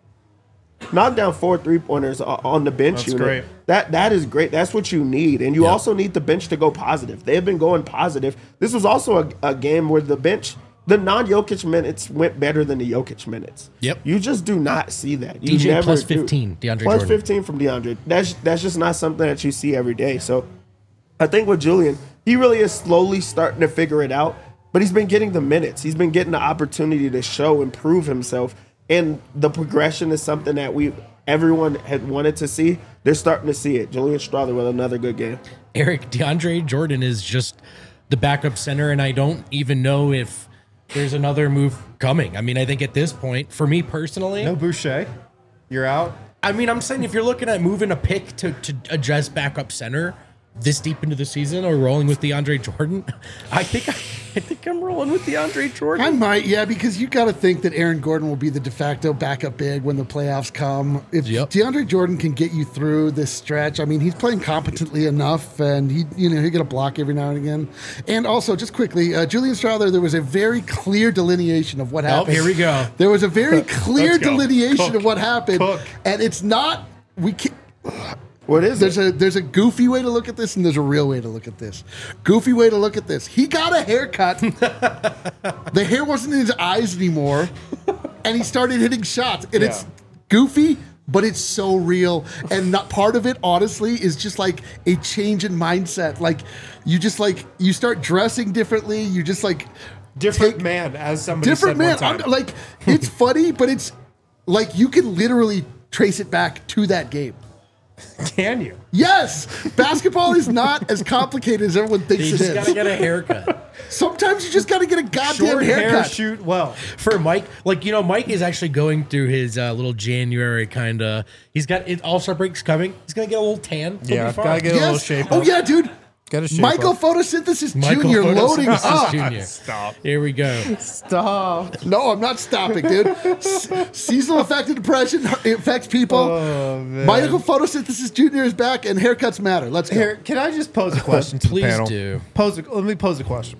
Knocked down four three-pointers on the bench That's unit. great. That That is great. That's what you need. And you Yep. also need the bench to go positive. They have been going positive. This was also a, a game where the bench, the non-Jokic minutes went better than the Jokic minutes. Yep. You just do not see that. You D J never plus do. fifteen, DeAndre Plus Jordan. fifteen from DeAndre. That's, that's just not something that you see every day. So I think with Julian, he really is slowly starting to figure it out. But he's been getting the minutes. He's been getting the opportunity to show and prove himself. And the progression is something that we everyone had wanted to see. They're starting to see it. Julian Strawther with another good game. Eric, DeAndre Jordan is just the backup center, and I don't even know if there's another move coming. I mean, I think at this point, for me personally, No Boucher. You're out. I mean, I'm saying if you're looking at moving a pick to, to address backup center this deep into the season or rolling with DeAndre Jordan, I think I, I think I'm rolling with DeAndre Jordan. I might, yeah, because you got to think that Aaron Gordon will be the de facto backup big when the playoffs come. If Yep. DeAndre Jordan can get you through this stretch, I mean, he's playing competently enough, and he, you know, he'll get a block every now and again. And also, just quickly, uh, Julian Strawther, there was a very clear delineation of what Oh, happened. here we go. There was a very clear Let's go. delineation Cook. of what happened, Cook. and it's not we can't. What is There's it? a there's a goofy way to look at this, and there's a real way to look at this. Goofy way to look at this. He got a haircut. The hair wasn't in his eyes anymore, and he started hitting shots. And it's goofy, but it's so real. And not part of it, honestly, is just like a change in mindset. Like you just like you start dressing differently. You just like Different take- man, as somebody different said man. one time. I'm, like it's funny, but it's like you can literally trace it back to that game. Can you? Yes, basketball is not as complicated as everyone thinks You it just is. gotta get a haircut. Sometimes you just gotta get a goddamn Short hair, haircut. shoot well. For Mike, like, you know, Mike is actually going through his uh, little January kind of. He's got it. All-Star break's coming. He's gonna get a little tan. He'll Yeah, be fine. gotta get a little Yes. shape Oh up. yeah, dude. Gotta shape Michael up. Photosynthesis Michael Junior loading Photosynthesis up. Junior Stop. Here we go. Stop. No, I'm not stopping, dude. S- seasonal affective depression affects people. Oh, man. Michael Photosynthesis Junior is back, and haircuts matter. Let's go. Here, can I just pose a question to Please the panel? do. Pose. A, let me pose a question.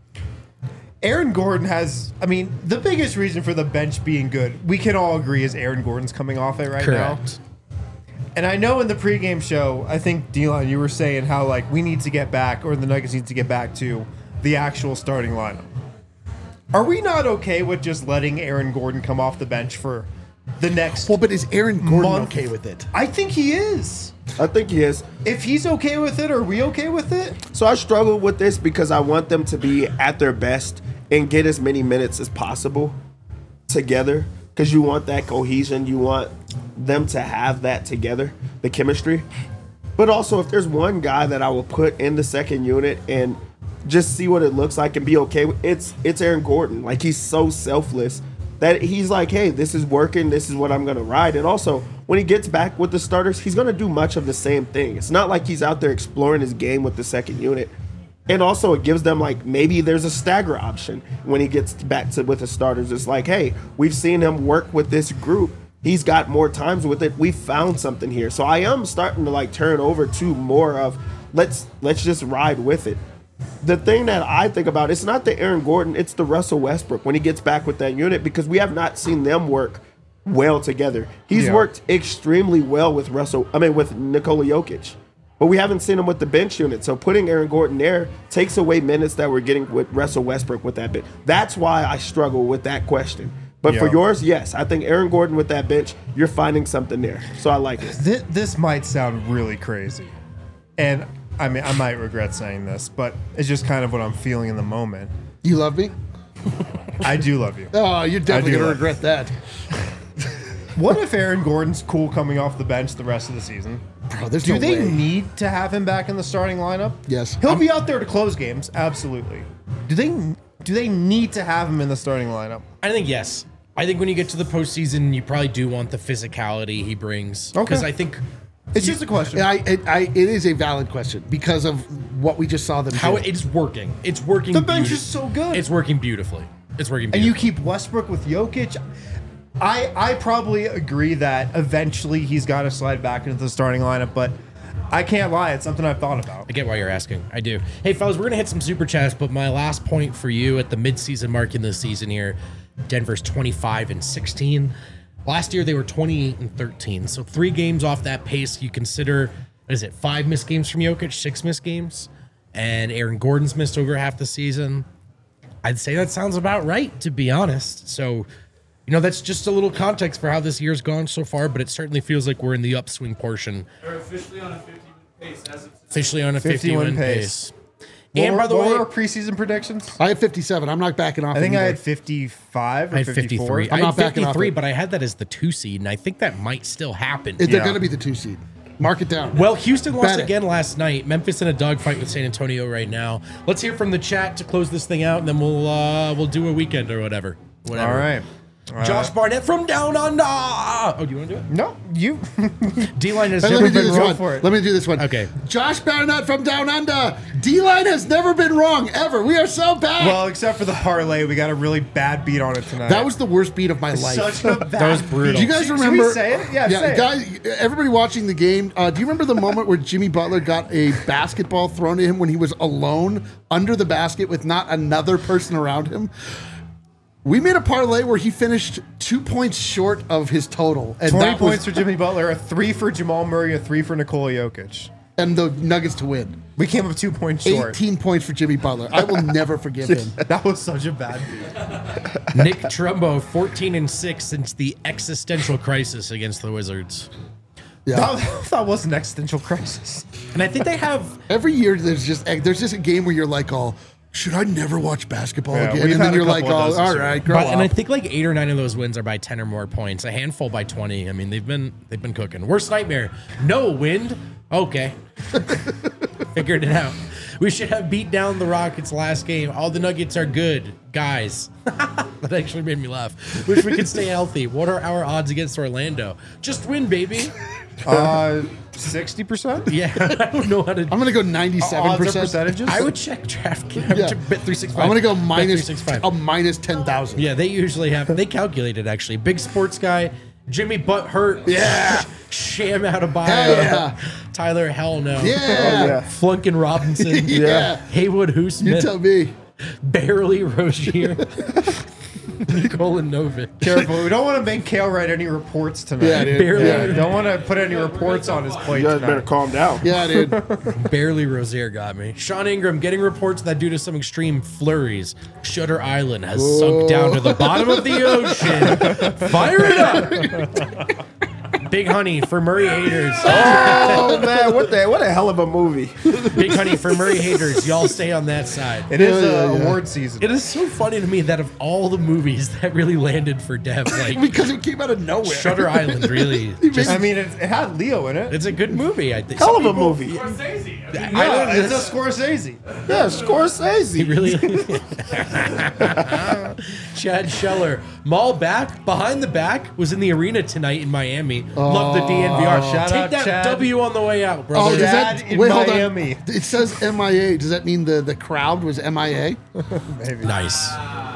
Aaron Gordon has. I mean, the biggest reason for the bench being good, we can all agree, is Aaron Gordon's coming off it right now. Correct. And I know in the pregame show, I think, D-Line, you were saying how, like, we need to get back, or the Nuggets need to get back to the actual starting lineup. Are we not okay with just letting Aaron Gordon come off the bench for the next... Well, but is Aaron Gordon Month. okay with it? I think he is. I think he is. If he's okay with it, are we okay with it? So I struggle with this because I want them to be at their best and get as many minutes as possible together, because you want that cohesion. You want them to have that together, the chemistry. But also, if there's one guy that I will put in the second unit and just see what it looks like and be okay with, it's it's Aaron Gordon. Like, he's so selfless that he's like, hey, this is working. This is what I'm going to ride. And also, when he gets back with the starters, he's going to do much of the same thing. It's not like he's out there exploring his game with the second unit. And also, it gives them, like, maybe there's a stagger option when he gets back to with the starters. It's like, hey, we've seen him work with this group. He's got more times with it. We found something here. So I am starting to, like, turn over to more of let's let's just ride with it. The thing that I think about, it's not the Aaron Gordon, it's the Russell Westbrook when he gets back with that unit, because we have not seen them work well together. He's Yeah. worked extremely well with Russell, I mean, with Nikola Jokic. But we haven't seen him with the bench unit. So putting Aaron Gordon there takes away minutes that we're getting with Russell Westbrook with that bench. That's why I struggle with that question. But for Yeah. yours, yes, I think Aaron Gordon with that bench, you're finding something there. So I like it. This, this might sound really crazy. And, I mean, I might regret saying this, but it's just kind of what I'm feeling in the moment. You love me? I do love you. Oh, you're definitely do gonna love regret that, What if Aaron Gordon's cool coming off the bench the rest of the season? bro. There's Do no they way. need to have him back in the starting lineup? Yes. He'll be out there to close games, absolutely. Do they do they need to have him in the starting lineup? I think yes. I think when you get to the postseason, you probably do want the physicality he brings. Okay. Because I think It's just a question. I, it, I, it is a valid question because of what we just saw them how do. it's working. It's working. The bench beauti- is so good. It's working beautifully. It's working And you beautifully. keep Westbrook with Jokic. I I probably agree that eventually he's got to slide back into the starting lineup, but I can't lie, it's something I've thought about. I get why you're asking. I do. Hey, fellas, we're going to hit some super chats, but my last point for you at the midseason mark in this season here, Denver's twenty-five and sixteen. Last year, they were twenty-eight and thirteen. So three games off that pace. You consider, what is it, five missed games from Jokic, six missed games? And Aaron Gordon's missed over half the season. I'd say that sounds about right, to be honest. So, you know, that's just a little context for how this year's gone so far, but it certainly feels like we're in the upswing portion. They're officially on a fifty-win pace as of today. Officially on a fifty-win fifty-win pace. pace. What And were- by the what way, were our preseason predictions? I have fifty-seven. I'm not backing off. I think I either. had fifty-five or I had fifty-four. fifty-three. I'm I not had backing off fifty-three, it. but I had that as the two seed, and I think that might still happen. They're Yeah. going to be the two seed. Mark it down. Well, Houston lost Bet it. again last night. Memphis in a dogfight with San Antonio right now. Let's hear from the chat to close this thing out, and then we'll uh, we'll do a weekend or whatever. Whatever. All right. Josh Barnett from Down Under. Oh, do you want to do it? No, you. D-line has Hey, never let me do been this wrong. one. for it. Let me do this one. Okay. Josh Barnett from Down Under. D-line has never been wrong, ever. We are so bad. Well, except for the parlay, we got a really bad beat on it tonight. that was the worst beat of my life. such a bad. That was brutal. Do you guys Should we remember? say it? Yeah, say it. guys. Everybody watching the game. Uh, do you remember the moment where Jimmy Butler got a basketball thrown to him when he was alone under the basket with not another person around him? We made a parlay where he finished two points short of his total, and twenty that was- points for Jimmy Butler, a three for Jamal Murray, a three for Nikola Jokic. and the Nuggets to win. We came up two points short. eighteen points for Jimmy Butler. I will never forgive him. That was such a bad beat. Nick Trumbo, fourteen and six since the existential crisis against the Wizards. Yeah. That, that was an existential crisis. And I think they have Every year there's just there's just a game where you're like, oh, should I never watch basketball Yeah, again? we've And had then a you're like, couple of oh, those all this year. right, grow But- and I up. think like eight or nine of those wins are by ten or more points. A handful by twenty. I mean, they've been they've been cooking. Worst nightmare. No wind. Okay. Figured it out. We should have beat down the Rockets last game. All the Nuggets are good, guys. That actually made me laugh. Wish we could stay healthy. What are our odds against Orlando? Just win, baby. Uh, sixty percent? Yeah, I don't know how to. I'm gonna go ninety-seven Odds or percent. percentages? I would check DraftKings. Yeah. Bet three six five. I'm gonna go minus three six five. a minus ten thousand. Yeah, they usually have. They calculated actually. Big sports guy, Jimmy Butt hurt. Yeah. Sham out of bio. Hell yeah. Tyler, hell no. Yeah. Oh, yeah. Flunkin Robinson. Yeah. Haywood Who You Smith. tell me. Barely Rozier. Nikola Novic. Careful. We don't want to make Kale write any reports tonight. Yeah, dude. Barely. Yeah, don't want to put any reports on his plate You guys better tonight. calm down. Yeah, dude. Barely Rozier got me. Sean Ingram getting reports that due to some extreme flurries, Shutter Island has sunk down to the bottom of the ocean. Fire it up. Big Honey for Murray haters. Oh man, what the what a hell of a movie. Big Honey for Murray haters. Y'all stay on that side. It is Yeah, uh, yeah, yeah. award season. It is so funny to me that of all the movies that really landed for Dev, like Because it came out of nowhere. Shutter Island, really, just, I mean, it, it had Leo in it. it's a good movie. I think. Hell Some of a people- movie. Scorsese. I mean, Yeah, it's a Scorsese. Yeah, Scorsese. Really? Chad Scheller. Maul back, behind the back, was in the arena tonight in Miami. Love the D N V R. shout Take out, that Chad. W on the way out, Oh, brother. does Chad that in wait? Miami. Hold on. It says M I A. Does that mean the, the crowd was M I A? Nice.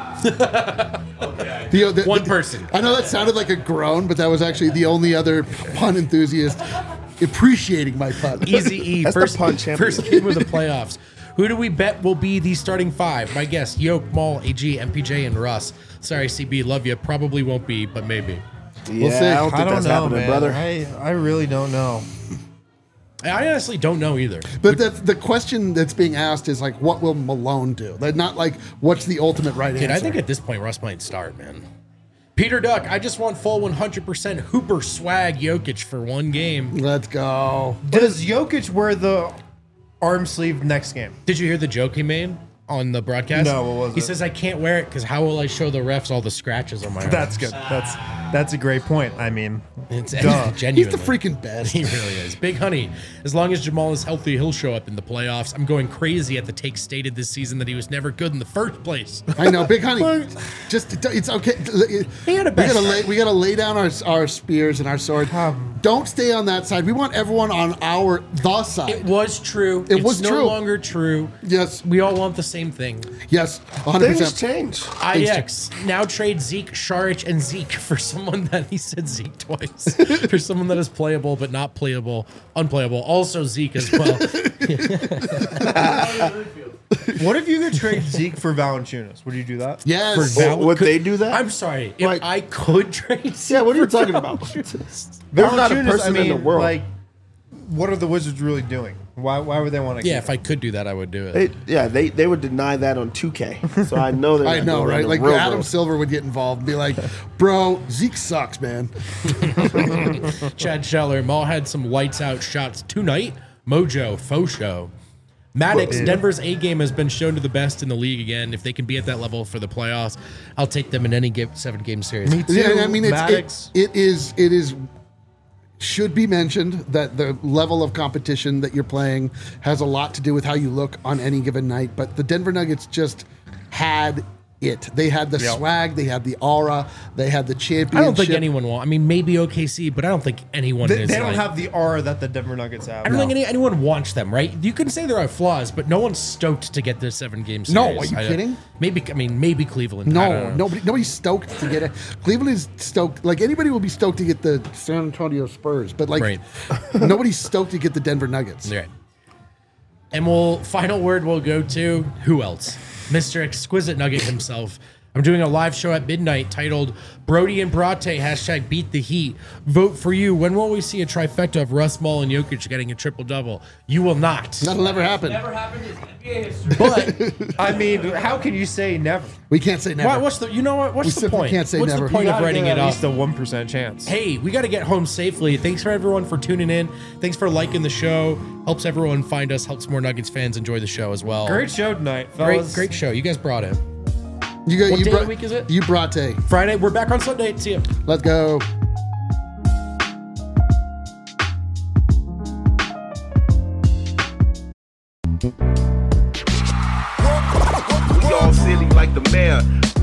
The, the, One the- person. I know that sounded like a groan, but that was actually the only other pun enthusiast appreciating my pun. Easy E. That's the First, pun champion. first game of the playoffs. Who do we bet will be the starting five? My guess, Yoke, Maul, A G, M P J, and Russ. Sorry, C B, love you. Probably won't be, but maybe. Yeah, see. I don't think I don't that's know, happening, man. brother. I, I really don't know. I honestly don't know either. But the, the question that's being asked is like, what will Malone do? Like, not like, what's the ultimate right Dude, answer? I think at this point, Russ might start, man. Peter Duck, I just want full one hundred percent Hooper swag Jokic for one game. Let's go. Does Jokic wear the arm sleeve next game? Did you hear the joke he made on the broadcast? No, what was he it? says, I can't wear it because how will I show the refs all the scratches on my arms? That's good. That's that's a great point. I mean, It's Duh. He's genuinely. the freaking best. He really is. Big Honey, as long as Jamal is healthy, he'll show up in the playoffs. I'm going crazy at the take stated this season that he was never good in the first place. I know, Big Honey. Just it's okay. He had a we best gotta lay we gotta lay down our our spears and our sword. Don't stay on that side. We want everyone on our the side. It was true. It it's was no true. longer true. yes, We all want the same thing. yes, one hundred Things percent. change. I X now trade Zeke, Sharich, and Zeke for someone that he said Zeke twice. For someone that is playable but not playable, unplayable. Also Zeke as well. what if you could trade Zeke for Valanciunas? Would you do that? Yes. For Val- Would could- they do that? I'm sorry. If Like- I could trade Zeke Yeah, what are you for talking about? Valanciunas- There's not a Valanciunas, person I mean, in the world. Like, what are the Wizards really doing? Why why would they want to? Yeah, if I could do that, I would do it. They, yeah, they, they would deny that on two K. So I know they're I not know, doing that right? in Like real Adam world. Silver would get involved and be like, "Bro, Zeke sucks, man." Chad Scheller, Maul had some lights out shots tonight. Mojo, faux show. Maddox, Denver's A game has been shown to the best in the league again. If they can be at that level for the playoffs, I'll take them in any game, seven game series. Me too. Yeah, I mean, it's, Maddox. it, it is it is should be mentioned that the level of competition that you're playing has a lot to do with how you look on any given night. But the Denver Nuggets just had it. They had the Yep. swag, they had the aura, they had the championship. I don't think anyone will. I mean, maybe O K C, but I don't think anyone They, is. they don't like- have the aura that the Denver Nuggets have. I don't think any, anyone wants them, right? You can say there are flaws, but no one's stoked to get this seven game series. No, are you I- kidding? Maybe, I mean, maybe Cleveland. I don't No, know. nobody, nobody's stoked to get it. Cleveland is stoked. Like anybody will be stoked to get the San Antonio Spurs, but like Right. nobody's stoked to get the Denver Nuggets. Right. And we'll final word will go to who else? Mister Exquisite Nugget himself. I'm doing a live show at midnight titled Brody and Brate, hashtag beat the heat. Vote for you. When will we see a trifecta of Russ, Maul, and Jokic getting a triple-double? You will not. That'll never happen. Never happened in N B A history. But I mean, how can you say never? We can't say never. why, what's the, you know what? What's We the simply point? can't say what's never. the point You of gotta writing get it at up? least a one percent chance. Hey, we got to get home safely. Thanks for everyone for tuning in. Thanks for liking the show. Helps everyone find us. Helps more Nuggets fans enjoy the show as well. Great show tonight, great, fellas. great show. You guys brought it. You got What you day of brought, the week is it? You brought a. Friday. We're back on Sunday. See you. Let's go. We all silly like the mayor.